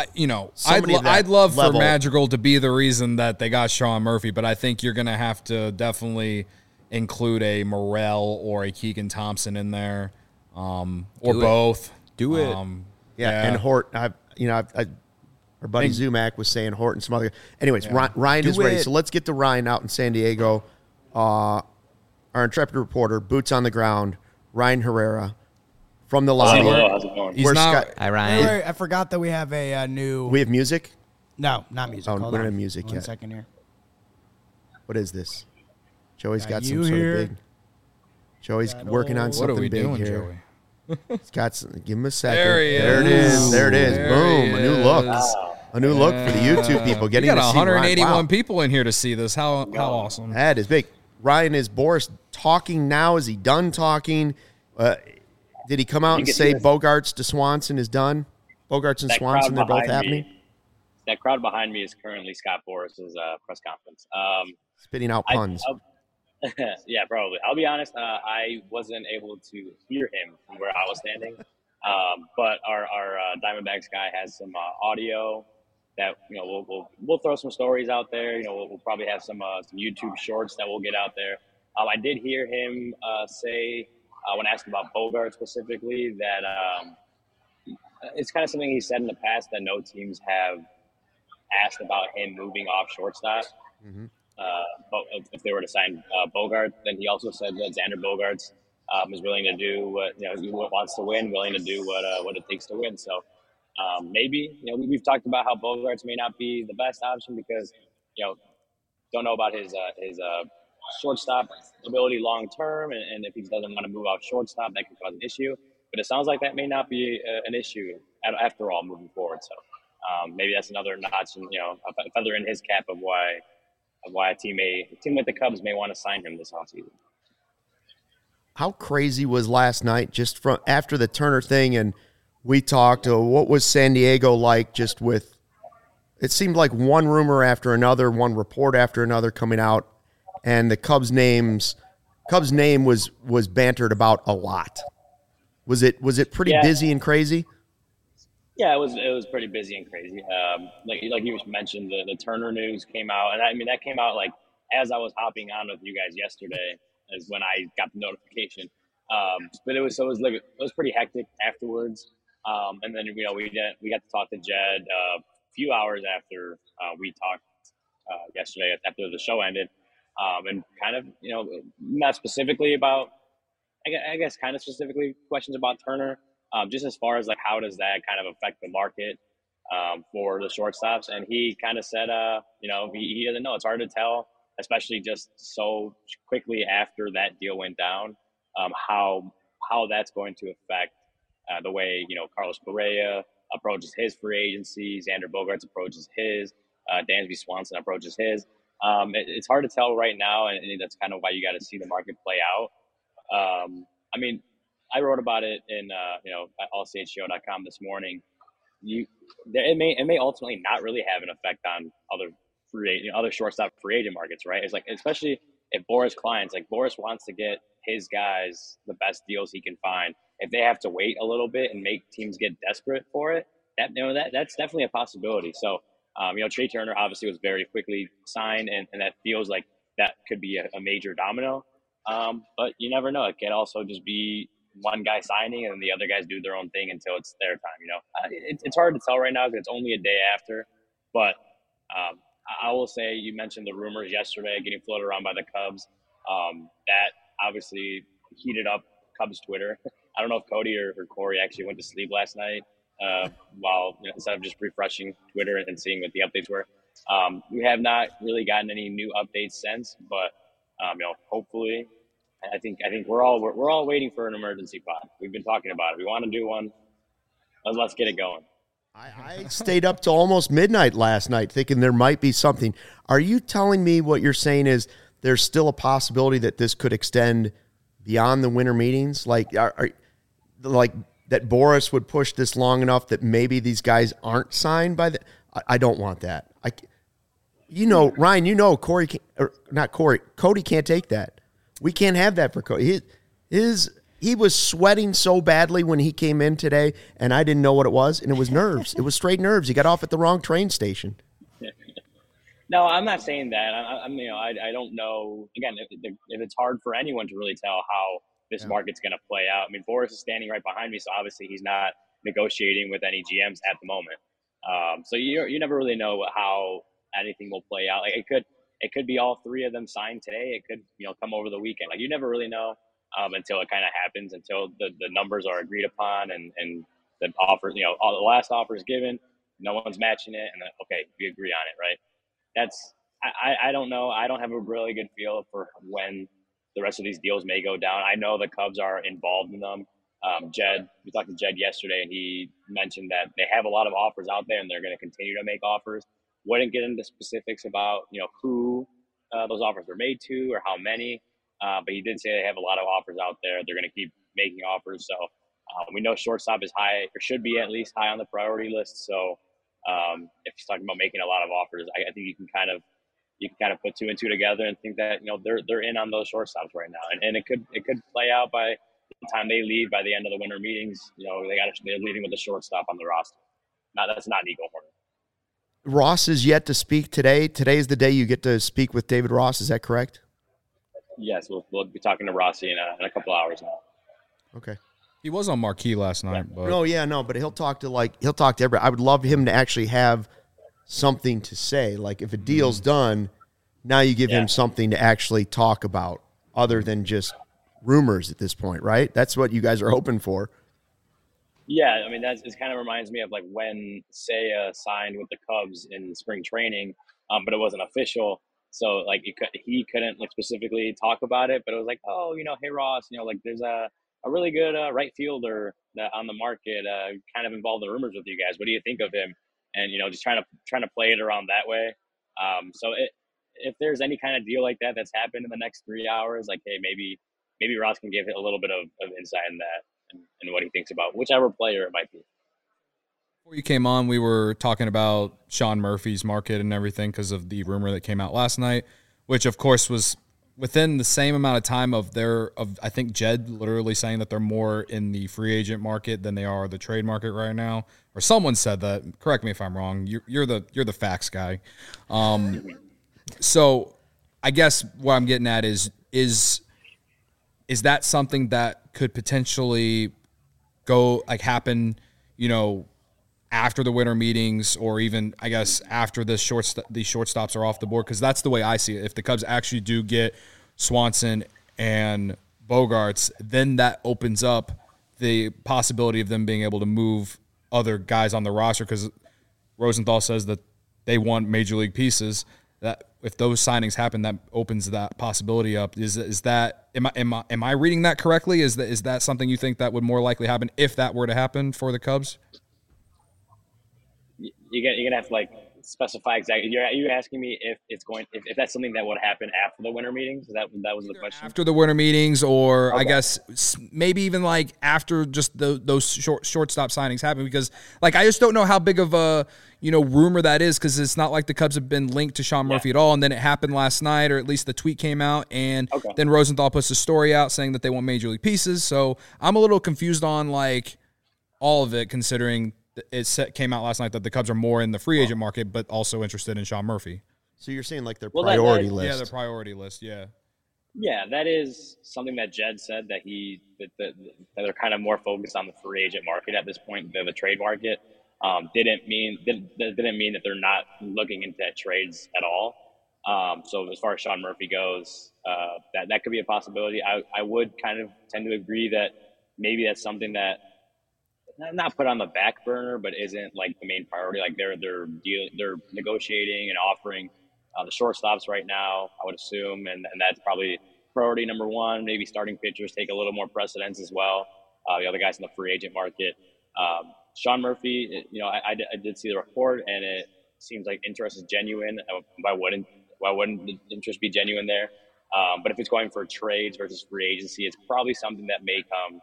love for Madrigal to be the reason that they got Sean Murphy, but I think you're going to have to definitely include a Morel or a Keegan Thompson in there, or both. Do it. And Hort. Our buddy Zumac was saying Hort and some other. Anyways, Ryan is ready. So let's get to Ryan out in San Diego. Our intrepid reporter, boots on the ground, Ryan Herrera. From the lobby. Hello, how's it going? Hi, Ryan. Wait, I forgot that we have a new. We have music? No, not music. Oh, we don't have music yet. 1 second here. What is this? Joey's got you some here. sort of big. Joey's working on something big doing, here. Joey? He's got some, give him a second. There it is. There it is. Boom. A new look. A new look for the YouTube people. Getting we got to see 181 Ryan. Wow. people in here to see this. How awesome. That is big. Ryan, is Boris talking now? Is he done talking? Did he come out and say Bogaerts to Swanson is done? Bogaerts and Swanson, they're both happening? That crowd behind me is currently Scott Boris's press conference. Spitting out puns. Yeah, probably. I'll be honest, I wasn't able to hear him from where I was standing. But our Diamondbacks guy has some audio that we'll throw some stories out there. We'll probably have some YouTube shorts that we'll get out there. I did hear him say when asked about Bogart specifically that it's kind of something he said in the past that no teams have asked about him moving off shortstop. Mm-hmm. But if they were to sign Bogart, then he also said that Xander Bogaerts is willing to do what he wants to win, willing to do what it takes to win. So maybe we've talked about how Bogaerts may not be the best option because don't know about his shortstop ability long term, and if he doesn't want to move off shortstop, that could cause an issue. But it sounds like that may not be an issue after all moving forward. So maybe that's another notch, and a feather in his cap of why a team like the Cubs may want to sign him this offseason. How crazy was last night just from after the Turner thing, and we talked, what was San Diego like just with, it seemed like one rumor after another, one report after another coming out, and the Cubs name was bantered about a lot. Was it pretty busy and crazy? Yeah, it was pretty busy and crazy. Like you mentioned, the Turner news came out, and that came out like as I was hopping on with you guys yesterday is when I got the notification. But it was pretty hectic afterwards. And then we got to talk to Jed a few hours after we talked yesterday after the show ended, and kind of not specifically about I guess kind of specifically questions about Turner, just as far as like how does that kind of affect the market for the shortstops. And he kind of said, he doesn't know. It's hard to tell, especially just so quickly after that deal went down, how that's going to affect the way, Carlos Correa approaches his free agency, Xander Bogaerts approaches his, Dansby Swanson approaches his. It's hard to tell right now, and that's kind of why you got to see the market play out. I wrote about it in at allchgo.com this morning. It may ultimately not really have an effect on other shortstop free agent markets, right? It's like, especially if Boras wants to get his guys the best deals he can find. If they have to wait a little bit and make teams get desperate for it, that's definitely a possibility. So, Trey Turner obviously was very quickly signed, and that feels like that could be a major domino. But you never know. It could also just be one guy signing and the other guys do their own thing until it's their time. It's hard to tell right now because it's only a day after. But I will say, you mentioned the rumors yesterday getting floated around by the Cubs. That obviously heated up Cubs Twitter. I don't know if Cody or Corey actually went to sleep last night while instead of just refreshing Twitter and seeing what the updates were. We have not really gotten any new updates since, but hopefully, I think we're all waiting for an emergency pod. We've been talking about it. We want to do one. Let's get it going. I stayed up till almost midnight last night thinking there might be something. Are you telling me what you're saying is there's still a possibility that this could extend beyond the winter meetings? Like, like that Boras would push this long enough that maybe these guys aren't signed by the – I don't want that. Ryan, Cody can't take that. We can't have that for Cody. He was sweating so badly when he came in today, and I didn't know what it was, and it was nerves. It was straight nerves. He got off at the wrong train station. No, I'm not saying that. I don't know. Again, if it's hard for anyone to really tell how this market's going to play out. I mean, Boras is standing right behind me, so obviously he's not negotiating with any GMs at the moment. So you never really know how anything will play out. Like it could be all three of them signed today. It could come over the weekend. Like, you never really know until it kind of happens, until the numbers are agreed upon and the offer, all the last offer is given, no one's matching it, and then, okay, we agree on it, right? I don't know. I don't have a really good feel for when the rest of these deals may go down. I know the Cubs are involved in them. We talked to Jed yesterday, and he mentioned that they have a lot of offers out there, and they're going to continue to make offers. Wouldn't get into specifics about who those offers were made to or how many, but he did say they have a lot of offers out there. They're going to keep making offers. So we know shortstop is high, or should be at least high on the priority list. So if he's talking about making a lot of offers, I think you can kind of put two and two together and think that they're in on those shortstops right now, and it could play out by the time they leave, by the end of the winter meetings. They're leaving with the shortstop on the roster. Now that's not Nico Hoerner. Ross is yet to speak today. Today is the day you get to speak with David Ross. Is that correct? Yes, we'll be talking to Rossi in a couple hours now. Okay. He was on Marquee last night. Yeah. But but he'll talk to everybody. I would love him to actually have something to say. Like, if a deal's done, now you give him something to actually talk about other than just rumors at this point, right? That's what you guys are hoping for. Yeah, I mean, it kind of reminds me of like when Seiya signed with the Cubs in spring training, but it wasn't official. So like he couldn't like specifically talk about it, but it was like, oh, hey Ross, like there's a really good right fielder on the market, kind of involved in rumors with you guys. What do you think of him? And just trying to play it around that way. So if there's any kind of deal like that's happened in the next 3 hours, like, hey, maybe Ross can give it a little bit of insight in that. And what he thinks about whichever player it might be. Before you came on, we were talking about Sean Murphy's market and everything because of the rumor that came out last night, which of course was within the same amount of time of I think Jed literally saying that they're more in the free agent market than they are the trade market right now. Or someone said that. Correct me if I'm wrong. You're the facts guy. So I guess what I'm getting at is that something that could potentially happen, after the winter meetings, or even, I guess, after these shortstops are off the board? Because that's the way I see it. If the Cubs actually do get Swanson and Bogaerts, then that opens up the possibility of them being able to move other guys on the roster because Rosenthal says that they want major league pieces. That if those signings happen, that opens that possibility up. Is that am I reading that correctly? Is that something you think that would more likely happen if that were to happen for the Cubs? You're gonna have to like specify exactly. Are you asking me if if that's something that would happen after the winter meetings? That was the question. After the winter meetings, or okay. I guess maybe even like after just those shortstop signings happen, because like I just don't know how big of a rumor that is, because it's not like the Cubs have been linked to Sean Murphy at all, and then it happened last night, or at least the tweet came out, and then Rosenthal puts a story out saying that they want major league pieces. So I'm a little confused on like all of it, considering it came out last night that the Cubs are more in the free agent market, but also interested in Sean Murphy. So you're saying like their priority list? Yeah, their priority list. Yeah. Yeah, that is something that Jed said, that that they're kind of more focused on the free agent market at this point than the trade market. Didn't mean that they're not looking into trades at all. So as far as Sean Murphy goes, that could be a possibility. I would kind of tend to agree that maybe that's something that not put on the back burner, but isn't like the main priority. Like they're negotiating and offering the shortstops right now, I would assume, and that's probably priority number one. Maybe starting pitchers take a little more precedence as well. The other guys in the free agent market. Sean Murphy, I did see the report, and it seems like interest is genuine. Why wouldn't the interest be genuine there? But if it's going for trades versus free agency, it's probably something that may come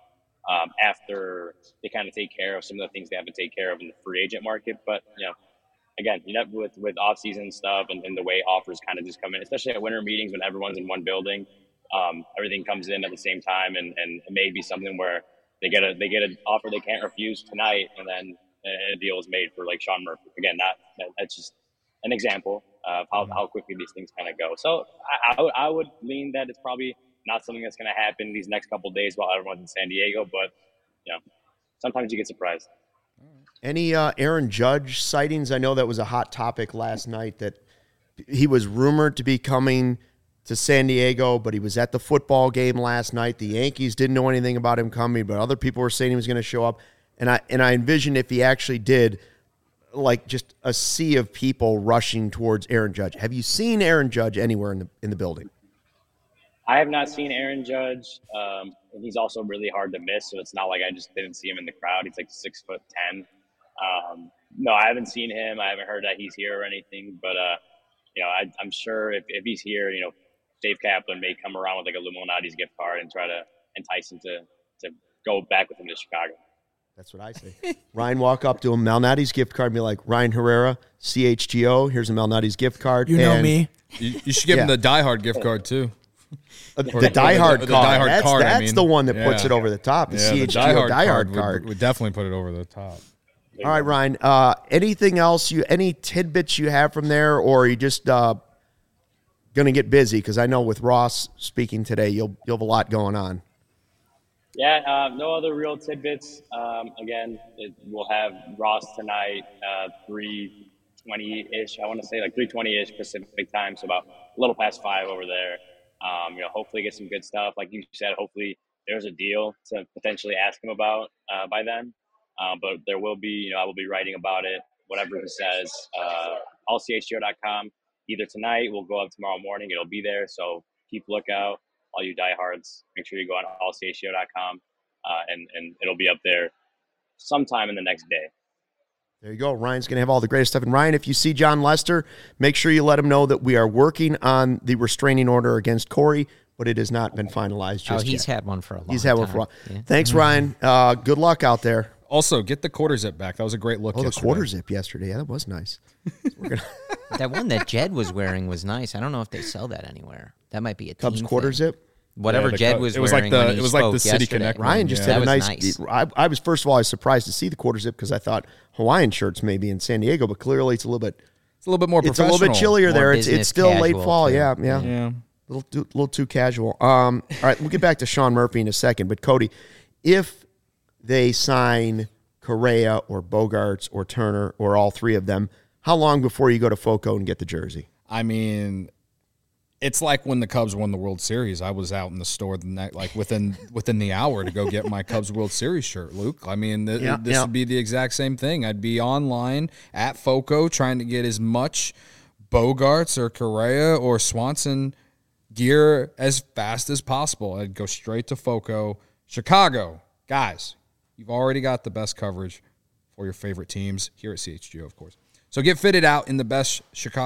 after they kind of take care of some of the things they have to take care of in the free agent market. But, again, with off-season stuff and the way offers kind of just come in, especially at winter meetings when everyone's in one building, everything comes in at the same time, and it may be something where they get an offer they can't refuse tonight, and then a deal is made for like Sean Murphy. Again, that's just an example of how quickly these things kind of go. So I would lean that it's probably not something that's going to happen these next couple of days while everyone's in San Diego, but sometimes you get surprised. Any Aaron Judge sightings? I know that was a hot topic last night, that he was rumored to be coming to San Diego, but he was at the football game last night. The Yankees didn't know anything about him coming, but other people were saying he was going to show up. And I envisioned if he actually did, like just a sea of people rushing towards Aaron Judge. Have you seen Aaron Judge anywhere in the building? I have not seen Aaron Judge. And he's also really hard to miss, so it's not like I just didn't see him in the crowd. He's like 6'10". No, I haven't seen him. I haven't heard that he's here or anything. But I'm sure if he's here, Dave Kaplan may come around with like a Illuminati's gift card and try to entice him to go back with him to Chicago. That's what I say. Ryan walk up to him, Malnati's gift card, and be like, Ryan Herrera, CHGO, here's a Malnati's gift card. You know me. You should give him the Die Hard gift card too. The Die Hard card. That's the one that puts yeah. it over the top. The CHGO Die Hard card would definitely put it over the top. All right, Ryan. Anything else? Any tidbits you have from there, or are you just going to get busy? Because I know with Ross speaking today, you'll have a lot going on. Yeah, no other real tidbits. Again, we'll have Ross tonight, 3:20-ish. I want to say like 3:20-ish Pacific time, so about a little past 5 over there. Hopefully get some good stuff. Like you said, hopefully there's a deal to potentially ask him about by then. But there will be, I will be writing about it, whatever he says, allchgo.com. Either tonight, we'll go up tomorrow morning. It'll be there. So keep lookout, all you diehards. Make sure you go on allchgo.com, and it'll be up there sometime in the next day. There you go. Ryan's going to have all the greatest stuff. And Ryan, if you see John Lester, make sure you let him know that we are working on the restraining order against Corey, but it has not been finalized just he's yet. had one for a long time. He's had one for a while. Yeah. Thanks, Ryan. Good luck out there. Also, get the quarter zip back. That was a great look yesterday. The quarter zip yesterday. Yeah, that was nice. That one that Jed was wearing was nice. I don't know if they sell that anywhere. That might be a Cubs team quarter thing. zip? Whatever Jed was wearing when he it was like the City yesterday. Connect. Ryan just had a nice. I was, first of all, I was surprised to see the quarter zip because I thought Hawaiian shirts maybe in San Diego, but clearly it's a little bit more professional. It's a little bit chillier More there. It's still late fall. Too. Yeah. A little too casual. All right, we'll get back to Sean Murphy in a second. But Cody, if they sign Correa or Bogaerts or Turner or all three of them, how long before you go to FOCO and get the jersey? I mean, It's like when the Cubs won the World Series. I was out in the store the night, like within the hour to go get my Cubs World Series shirt, Luke. I mean, this would be the exact same thing. I'd be online at FOCO trying to get as much Bogaerts or Correa or Swanson gear as fast as possible. I'd go straight to FOCO. Chicago, guys, you've already got the best coverage for your favorite teams here at CHGO, of course. So get fitted out in the best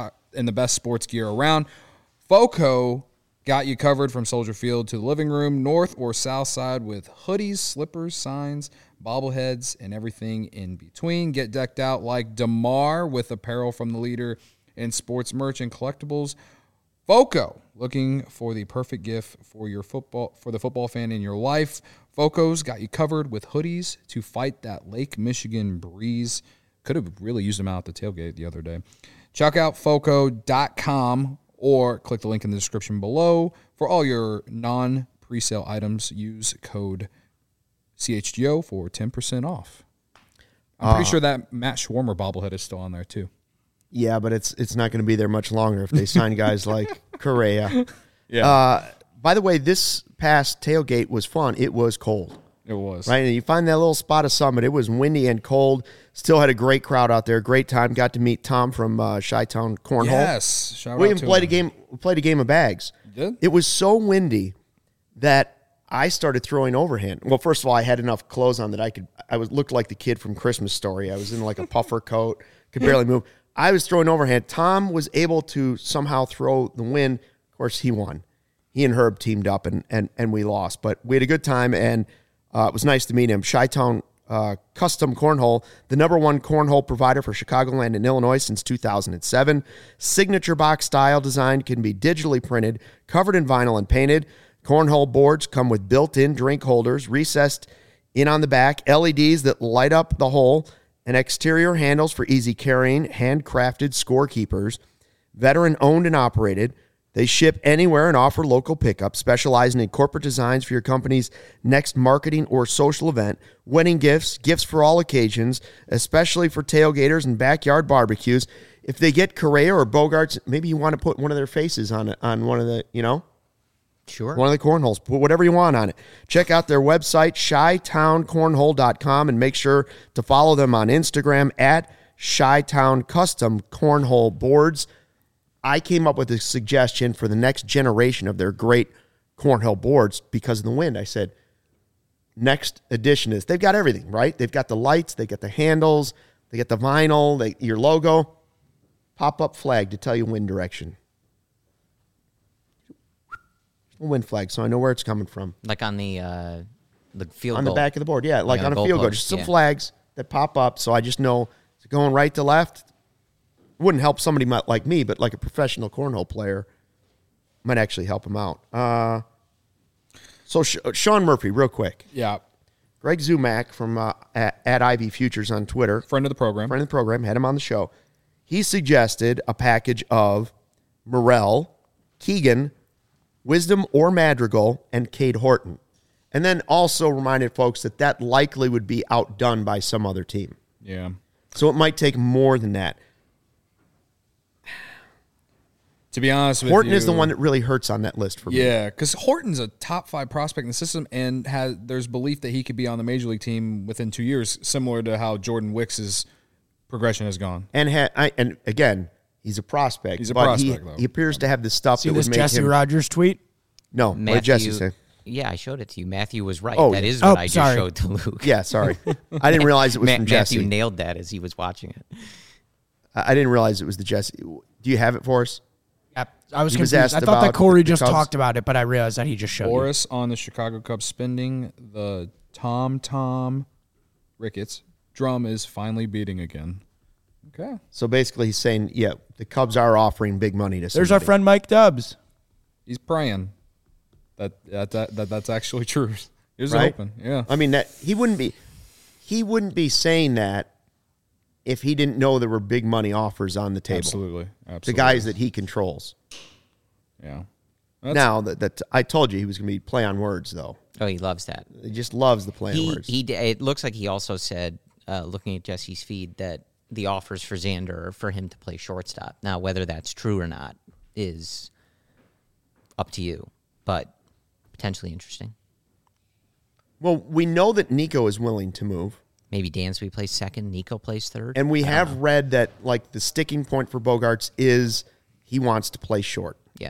sports gear around. FOCO got you covered from Soldier Field to the living room, north or south side, with hoodies, slippers, signs, bobbleheads, and everything in between. Get decked out like DeMar with apparel from the leader in sports merch and collectibles. FOCO, looking for the perfect gift for the football fan in your life. FOCO's got you covered with hoodies to fight that Lake Michigan breeze. Could have really used them out at the tailgate the other day. Check out FOCO.com or click the link in the description below for all your non-presale items. Use code CHGO for 10% off. I'm pretty sure that Matt Schwarmer bobblehead is still on there too. Yeah, but it's not going to be there much longer if they sign guys like Correa. Yeah. By the way, this past tailgate was fun. It was cold. It was. Right, and you find that little spot of Summit. It was windy and cold. Still had a great crowd out there. Great time. Got to meet Tom from Chi-Town Cornhole. Yes. Shout We out even to played a him. game. We played a game of bags. You did? It was so windy that I started throwing overhand. Well, first of all, I had enough clothes on that I looked like the kid from Christmas Story. I was in like a puffer coat, could barely move. I was throwing overhand. Tom was able to somehow throw the win. Of course, he won. He and Herb teamed up and we lost, but we had a good time, and it was nice to meet him. Chi-Town Custom Cornhole, the #1 cornhole provider for Chicagoland and Illinois since 2007. Signature box style design, can be digitally printed, covered in vinyl and painted. Cornhole boards come with built-in drink holders, recessed in on the back, LEDs that light up the hole, and exterior handles for easy carrying, handcrafted scorekeepers. Veteran owned and operated. They ship anywhere and offer local pickup, specializing in corporate designs for your company's next marketing or social event, wedding gifts, gifts for all occasions, especially for tailgaters and backyard barbecues. If they get Correa or Bogaerts, maybe you want to put one of their faces on one of the, Sure. one of the cornholes. Put whatever you want on it. Check out their website, ChiTownCornhole.com, and make sure to follow them on Instagram at Chi-Town Custom Cornhole Boards. I came up with a suggestion for the next generation of their great cornhole boards because of the wind. I said, next edition is, they've got everything, right? They've got the lights, they got the handles, they got the vinyl, your logo, pop-up flag to tell you wind direction. Wind flag, so I know where it's coming from. Like on the field on goal. the back of the board, yeah, like on a field goal. post, Just some yeah. flags that pop up, so I just know it's going right to left. Wouldn't help somebody like me, but like a professional cornhole player might actually help him out. So Sean Murphy, real quick. Yeah. Greg Zumack from at Ivy Futures on Twitter. Friend of the program. Had him on the show. He suggested a package of Morrell, Keegan, Wisdom or Madrigal, and Cade Horton. And then also reminded folks that likely would be outdone by some other team. Yeah. So it might take more than that. To be honest with you, Horton is the one that really hurts on that list for me. Yeah, because Horton's a top 5 prospect in the system, and there's belief that he could be on the major league team within 2 years, similar to how Jordan Wicks's progression has gone. And again, he's a prospect. He's a but prospect, though. He appears to have the stuff See that this would make Jesse him. Rogers tweet? No, what did Jesse say? Yeah, I showed it to you. Matthew was right. Oh, That yeah. is what I just sorry. showed to Luke. Yeah, sorry. I didn't realize it was from Jesse. Matthew nailed that as he was watching it. I didn't realize it was the Jesse. Do you have it for us? Yep. I was He was confused. asked I thought about that Corey the just Cubs. talked about it, but I realized that he just showed you. Boris on the Chicago Cubs spending the Tom Ricketts drum is finally beating again. Okay. So basically, he's saying, yeah, the Cubs are offering big money to somebody. There's our friend Mike Dubs. He's praying that's actually true. Here's Right? open. Yeah. I mean, that he wouldn't be saying that if he didn't know there were big money offers on the table. Absolutely. The guys that he controls. Yeah. Now that I told you he was going to be play on words, though. Oh, he loves that. He just loves the play on words. It looks like he also said, looking at Jesse's feed, that the offers for Xander are for him to play shortstop. Now, whether that's true or not is up to you, but potentially interesting. Well, we know that Nico is willing to move. Maybe Dansby plays second, Nico plays third. And we have read that like the sticking point for Bogaerts is he wants to play short. Yeah.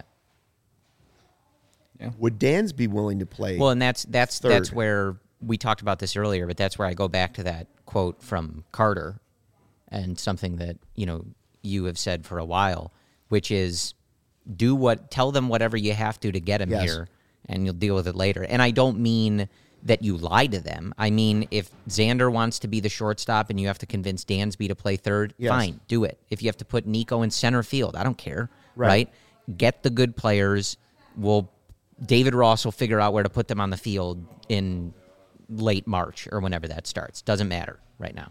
Would Dansby willing to play? Well, and that's third? where we talked about this earlier, but that's where I go back to that quote from Carter and something that, you have said for a while, which is tell them whatever you have to get him here, and you'll deal with it later. And I don't mean that you lie to them. I mean, if Xander wants to be the shortstop and you have to convince Dansby to play third, fine, do it. If you have to put Nico in center field, I don't care, right? Get the good players. David Ross will figure out where to put them on the field in late March or whenever that starts. Doesn't matter right now.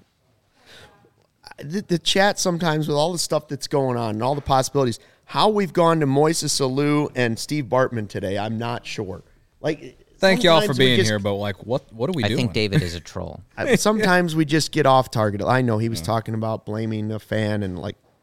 The chat sometimes with all the stuff that's going on and all the possibilities, how we've gone to Moises Alou and Steve Bartman today, I'm not sure. Thank y'all for being here, but what are we doing? I think David is a troll. Sometimes we just get off target. I know he was talking about blaming a fan and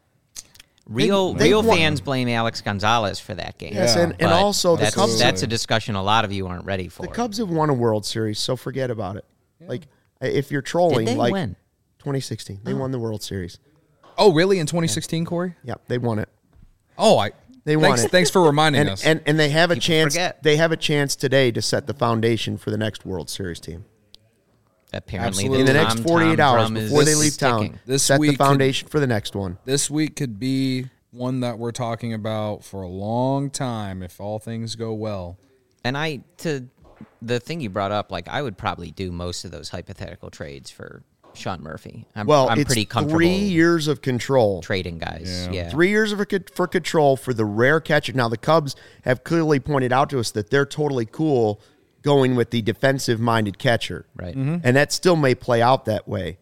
Real fans blame Alex Gonzalez for that game. Yes, and also the Cubs. That's a discussion a lot of you aren't ready for. The Cubs have won a World Series, so forget about it. If you're trolling, Did they win? 2016, they won the World Series. Oh, really? In 2016, Corey? Yep, they won it. Oh, they won it. Thanks for reminding us. And they have a chance. Forget. They have a chance today to set the foundation for the next World Series team. Apparently, Absolutely. In the next 48 hours before they leave town, set the foundation for the next one. This week could be one that we're talking about for a long time if all things go well. And to the thing you brought up, I would probably do most of those hypothetical trades for Sean Murphy. I'm it's pretty comfortable 3 years of control. trading guys. Yeah. 3 years for control for the rare catcher. Now, the Cubs have clearly pointed out to us that they're totally cool going with the defensive-minded catcher. Right. Mm-hmm. And that still may play out that way.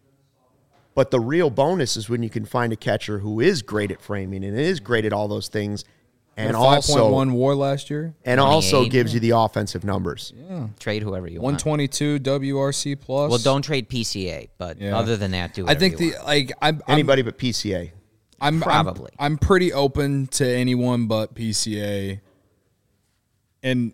But the real bonus is when you can find a catcher who is great at framing and is great at all those things, and also 5.1 WAR last year, and also gives you the offensive numbers. Trade whoever you want. 122 WRC plus. Well, don't trade PCA, but other than that, do I whatever think you want. Anybody but PCA. Probably. I'm pretty open to anyone but PCA, and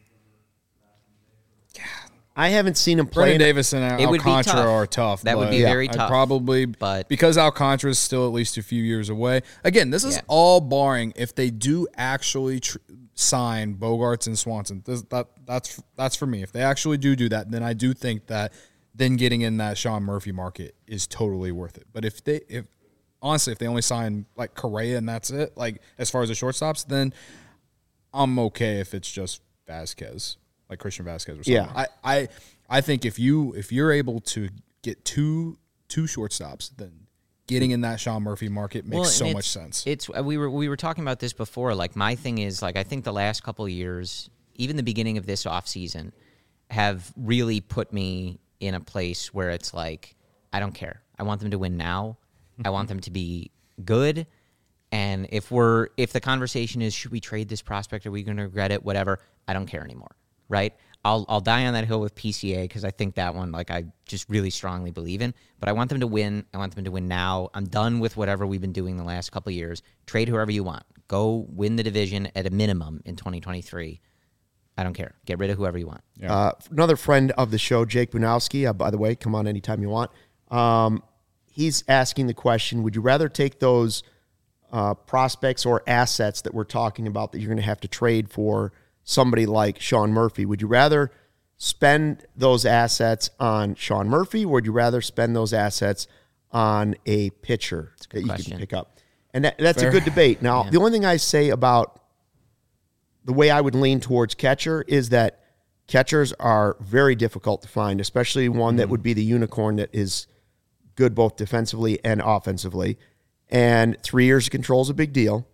I haven't seen him play. Brendan Davis and It would be Alcantara tough. are tough. That would but be very I'd tough. Probably, But- because Alcantara is still at least a few years away. Again, this is all barring if they do actually sign Bogaerts and Swanson. That's for me. If they actually do that, then I do think that then getting in that Sean Murphy market is totally worth it. But if they only sign Correa and that's it, as far as the shortstops, then I'm okay if it's just Vasquez. Like Christian Vasquez or something. Yeah. I think if you're able to get two shortstops, then getting in that Sean Murphy market makes so much sense. We were talking about this before. My thing is I think the last couple of years, even the beginning of this offseason, have really put me in a place where it's I don't care. I want them to win now. I want them to be good. And if the conversation is, should we trade this prospect? Are we going to regret it? Whatever. I don't care anymore. Right? I'll die on that hill with PCA because I think that one, I just really strongly believe in. But I want them to win. I want them to win now. I'm done with whatever we've been doing the last couple of years. Trade whoever you want. Go win the division at a minimum in 2023. I don't care. Get rid of whoever you want. Yeah. Another friend of the show, Jake Bunowski, by the way, come on anytime you want. He's asking the question, would you rather take those prospects or assets that we're talking about that you're going to have to trade for somebody like Sean Murphy? Would you rather spend those assets on Sean Murphy, or would you rather spend those assets on a pitcher that you can pick up? And that's a good debate. Now, the only thing I say about the way I would lean towards catcher is that catchers are very difficult to find, especially one that would be the unicorn that is good both defensively and offensively. And 3 years of control is a big deal.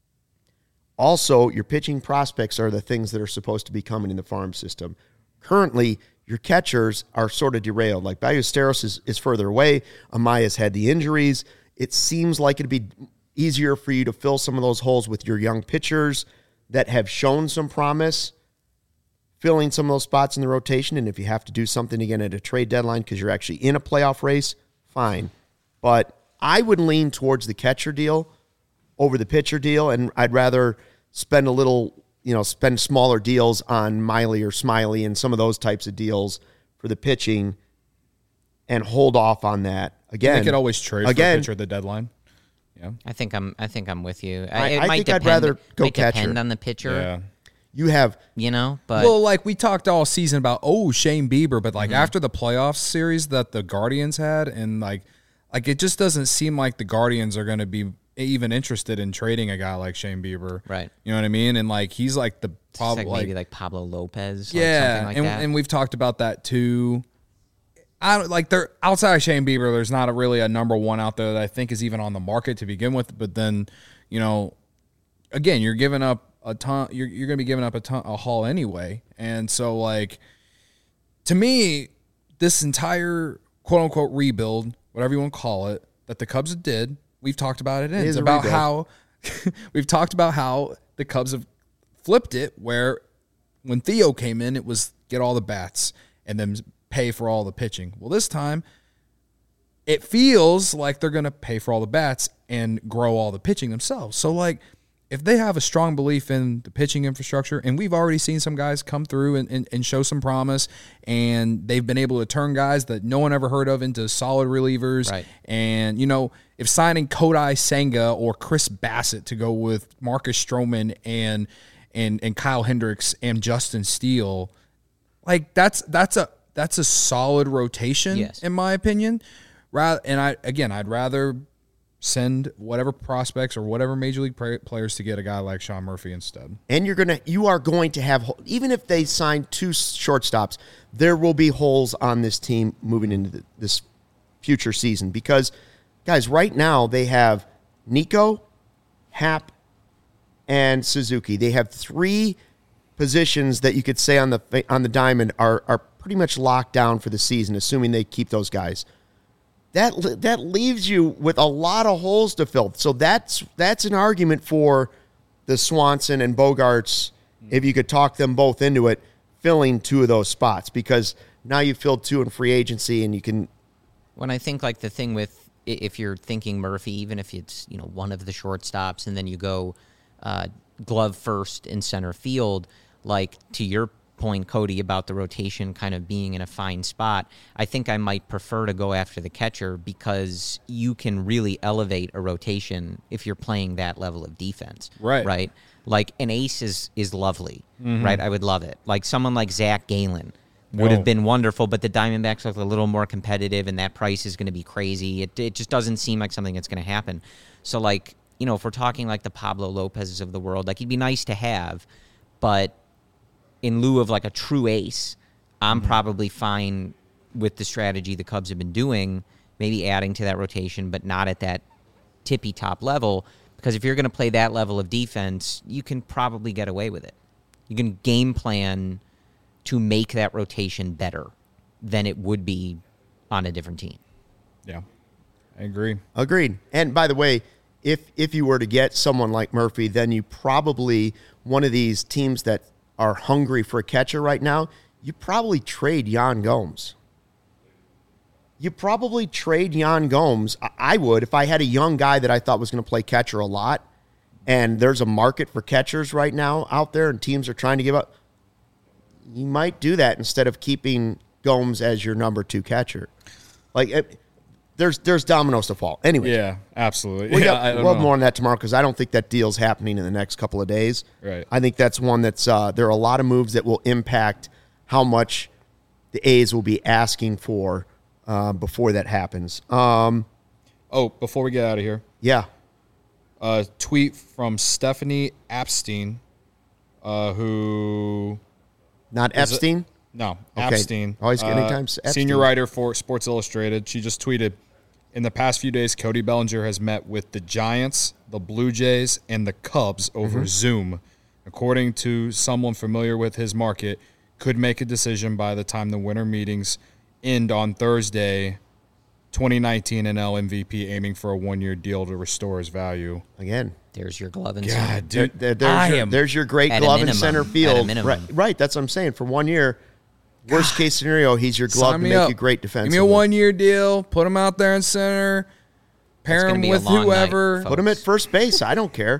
Also, your pitching prospects are the things that are supposed to be coming in the farm system. Currently, your catchers are sort of derailed. Ballesteros is further away. Amaya's had the injuries. It seems like it'd be easier for you to fill some of those holes with your young pitchers that have shown some promise, filling some of those spots in the rotation. And if you have to do something again at a trade deadline because you're actually in a playoff race, fine. But I would lean towards the catcher deal over the pitcher deal, and I'd rather spend a little spend smaller deals on Miley or Smiley and some of those types of deals for the pitching and hold off on that. Again, they could always trade for a pitcher at the deadline. Yeah, I think I'm with you. I think I'd rather go catcher. Depend on the pitcher. Yeah. You have, but well, like we talked all season about Shane Bieber, but like after the playoff series that the Guardians had, and like it just doesn't seem like the Guardians are going to be even interested in trading a guy like Shane Bieber, right? You know what I mean? And like he's like the probably maybe like Pablo Lopez, yeah, something like that. And we've talked about that too. I don't like there outside of Shane Bieber. There's not really a number one out there that I think is even on the market to begin with. But then, again, you're giving up a ton. You're going to be giving up a haul anyway. And so, like, to me, this entire quote unquote rebuild, whatever you want to call it, that the Cubs did, we've talked about it. It's about how we've talked about how the Cubs have flipped it. Where when Theo came in, it was get all the bats and then pay for all the pitching. Well, this time it feels like they're going to pay for all the bats and grow all the pitching themselves. So like if they have a strong belief in the pitching infrastructure, and we've already seen some guys come through and show some promise, and they've been able to turn guys that no one ever heard of into solid relievers. Right. And, if signing Kodai Senga or Chris Bassett to go with Marcus Stroman and Kyle Hendricks and Justin Steele, like that's a solid rotation, yes, in my opinion. I'd rather send whatever prospects or whatever major league players to get a guy like Sean Murphy instead. And you are going to have, even if they sign 2 shortstops, there will be holes on this team moving into this future season because, guys, right now they have Nico, Happ, and Suzuki. They have 3 positions that you could say on the diamond are pretty much locked down for the season, assuming they keep those guys. That leaves you with a lot of holes to fill. So that's an argument for the Swanson and Bogaerts, if you could talk them both into it, filling 2 of those spots, because now you've filled 2 in free agency and you can. When I think like the thing with, if you're thinking Murphy, even if it's one of the shortstops, and then you go glove first in center field, like to your point, Cody, about the rotation kind of being in a fine spot, I think I might prefer to go after the catcher because you can really elevate a rotation if you're playing that level of defense. Right. Like an ace is lovely, right? I would love it. Like someone like Zach Gallen would have been wonderful, but the Diamondbacks look a little more competitive and that price is going to be crazy. It just doesn't seem like something that's going to happen. So like, if we're talking like the Pablo Lopez's of the world, like he'd be nice to have, but in lieu of like a true ace, I'm probably fine with the strategy the Cubs have been doing, maybe adding to that rotation, but not at that tippy top level, because if you're going to play that level of defense, you can probably get away with it. You can game plan to make that rotation better than it would be on a different team. Yeah, I agree. Agreed. And by the way, if you were to get someone like Murphy, then you probably, one of these teams that are hungry for a catcher right now, you probably trade Yan Gomes. I would, if I had a young guy that I thought was going to play catcher a lot, and there's a market for catchers right now out there and teams are trying to give up, you might do that instead of keeping Gomes as your number 2 catcher. Like, there's dominoes to fall. Anyway. Yeah, absolutely. We'll have more on that tomorrow because I don't think that deal's happening in the next couple of days. Right. I think that's one that's there are a lot of moves that will impact how much the A's will be asking for before that happens. Before we get out of here. Yeah. A tweet from Stephanie Epstein, who... Not Epstein? No, okay. Epstein. Always anytime Epstein. Senior writer for Sports Illustrated. She just tweeted, in the past few days, Cody Bellinger has met with the Giants, the Blue Jays, and the Cubs over Zoom. According to someone familiar with his market, could make a decision by the time the winter meetings end on Thursday. 2019 NL MVP aiming for a 1-year deal to restore his value. Again. There's your glove in God, center. dude. There's your great glove in center field. Right, that's what I'm saying. For 1 year, worst case scenario, he's your glove to make you great defensively. Give me a 1-year deal. Put him out there in center. Pair him with whoever. Put him at first base. I don't care.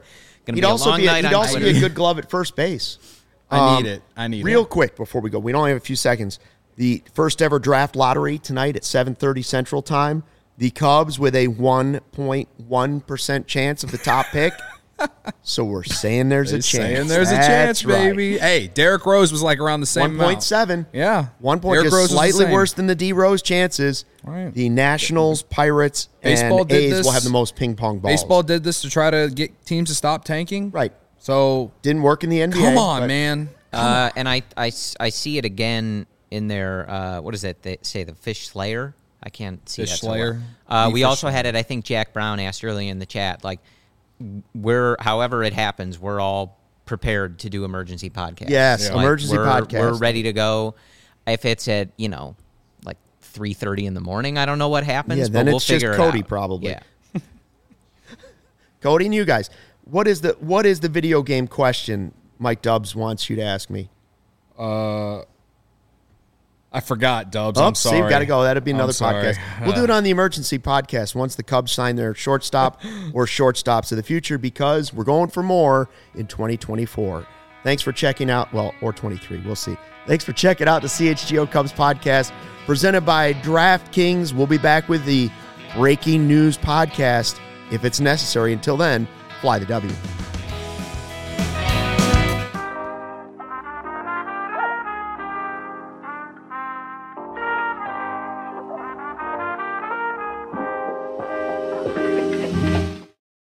Gonna He'd be a also long be night he'd on also Twitter. be a good glove at first base. I need it. I need Real it. quick before we go, we only have a few seconds. The first ever draft lottery tonight at 7:30 Central Time. The Cubs with a 1.1% chance of the top pick. So we're saying there's a chance. Saying there's a chance, That's right. baby. Hey, Derrick Rose was like around the same amount. 1.7. Yeah. 1 point, Derrick Rose just was the slightly same. worse than the D Rose chances. Right. The Nationals, Pirates, Baseball and did A's this. will have the most ping pong balls. Baseball did this to try to get teams to stop tanking. Right. So Didn't work in the NBA. come on, but man. And I see it again in their what is it? They say the Fish Slayer. I can't see Fish that so Slayer? well. The We Fish also had it. I think Jack Brown asked earlier in the chat. Like, however it happens, we're all prepared to do emergency podcasts. Yes, Like, emergency podcast. We're ready to go. If it's at like 3:30 in the morning, I don't know what happens. Yeah, then but we'll it's just figure it Cody out. probably. Yeah. Cody and you guys, what is the video game question Mike Dubs wants you to ask me? I forgot, Dubs. Oh, I'm sorry. see, we got to go. That'll be another I'm sorry. podcast. We'll do it on the emergency podcast once the Cubs sign their shortstop or shortstops of the future, because we're going for more in 2024. Thanks for checking out, or 23. We'll see. Thanks for checking out the CHGO Cubs podcast presented by DraftKings. We'll be back with the breaking news podcast if it's necessary. Until then, fly the W.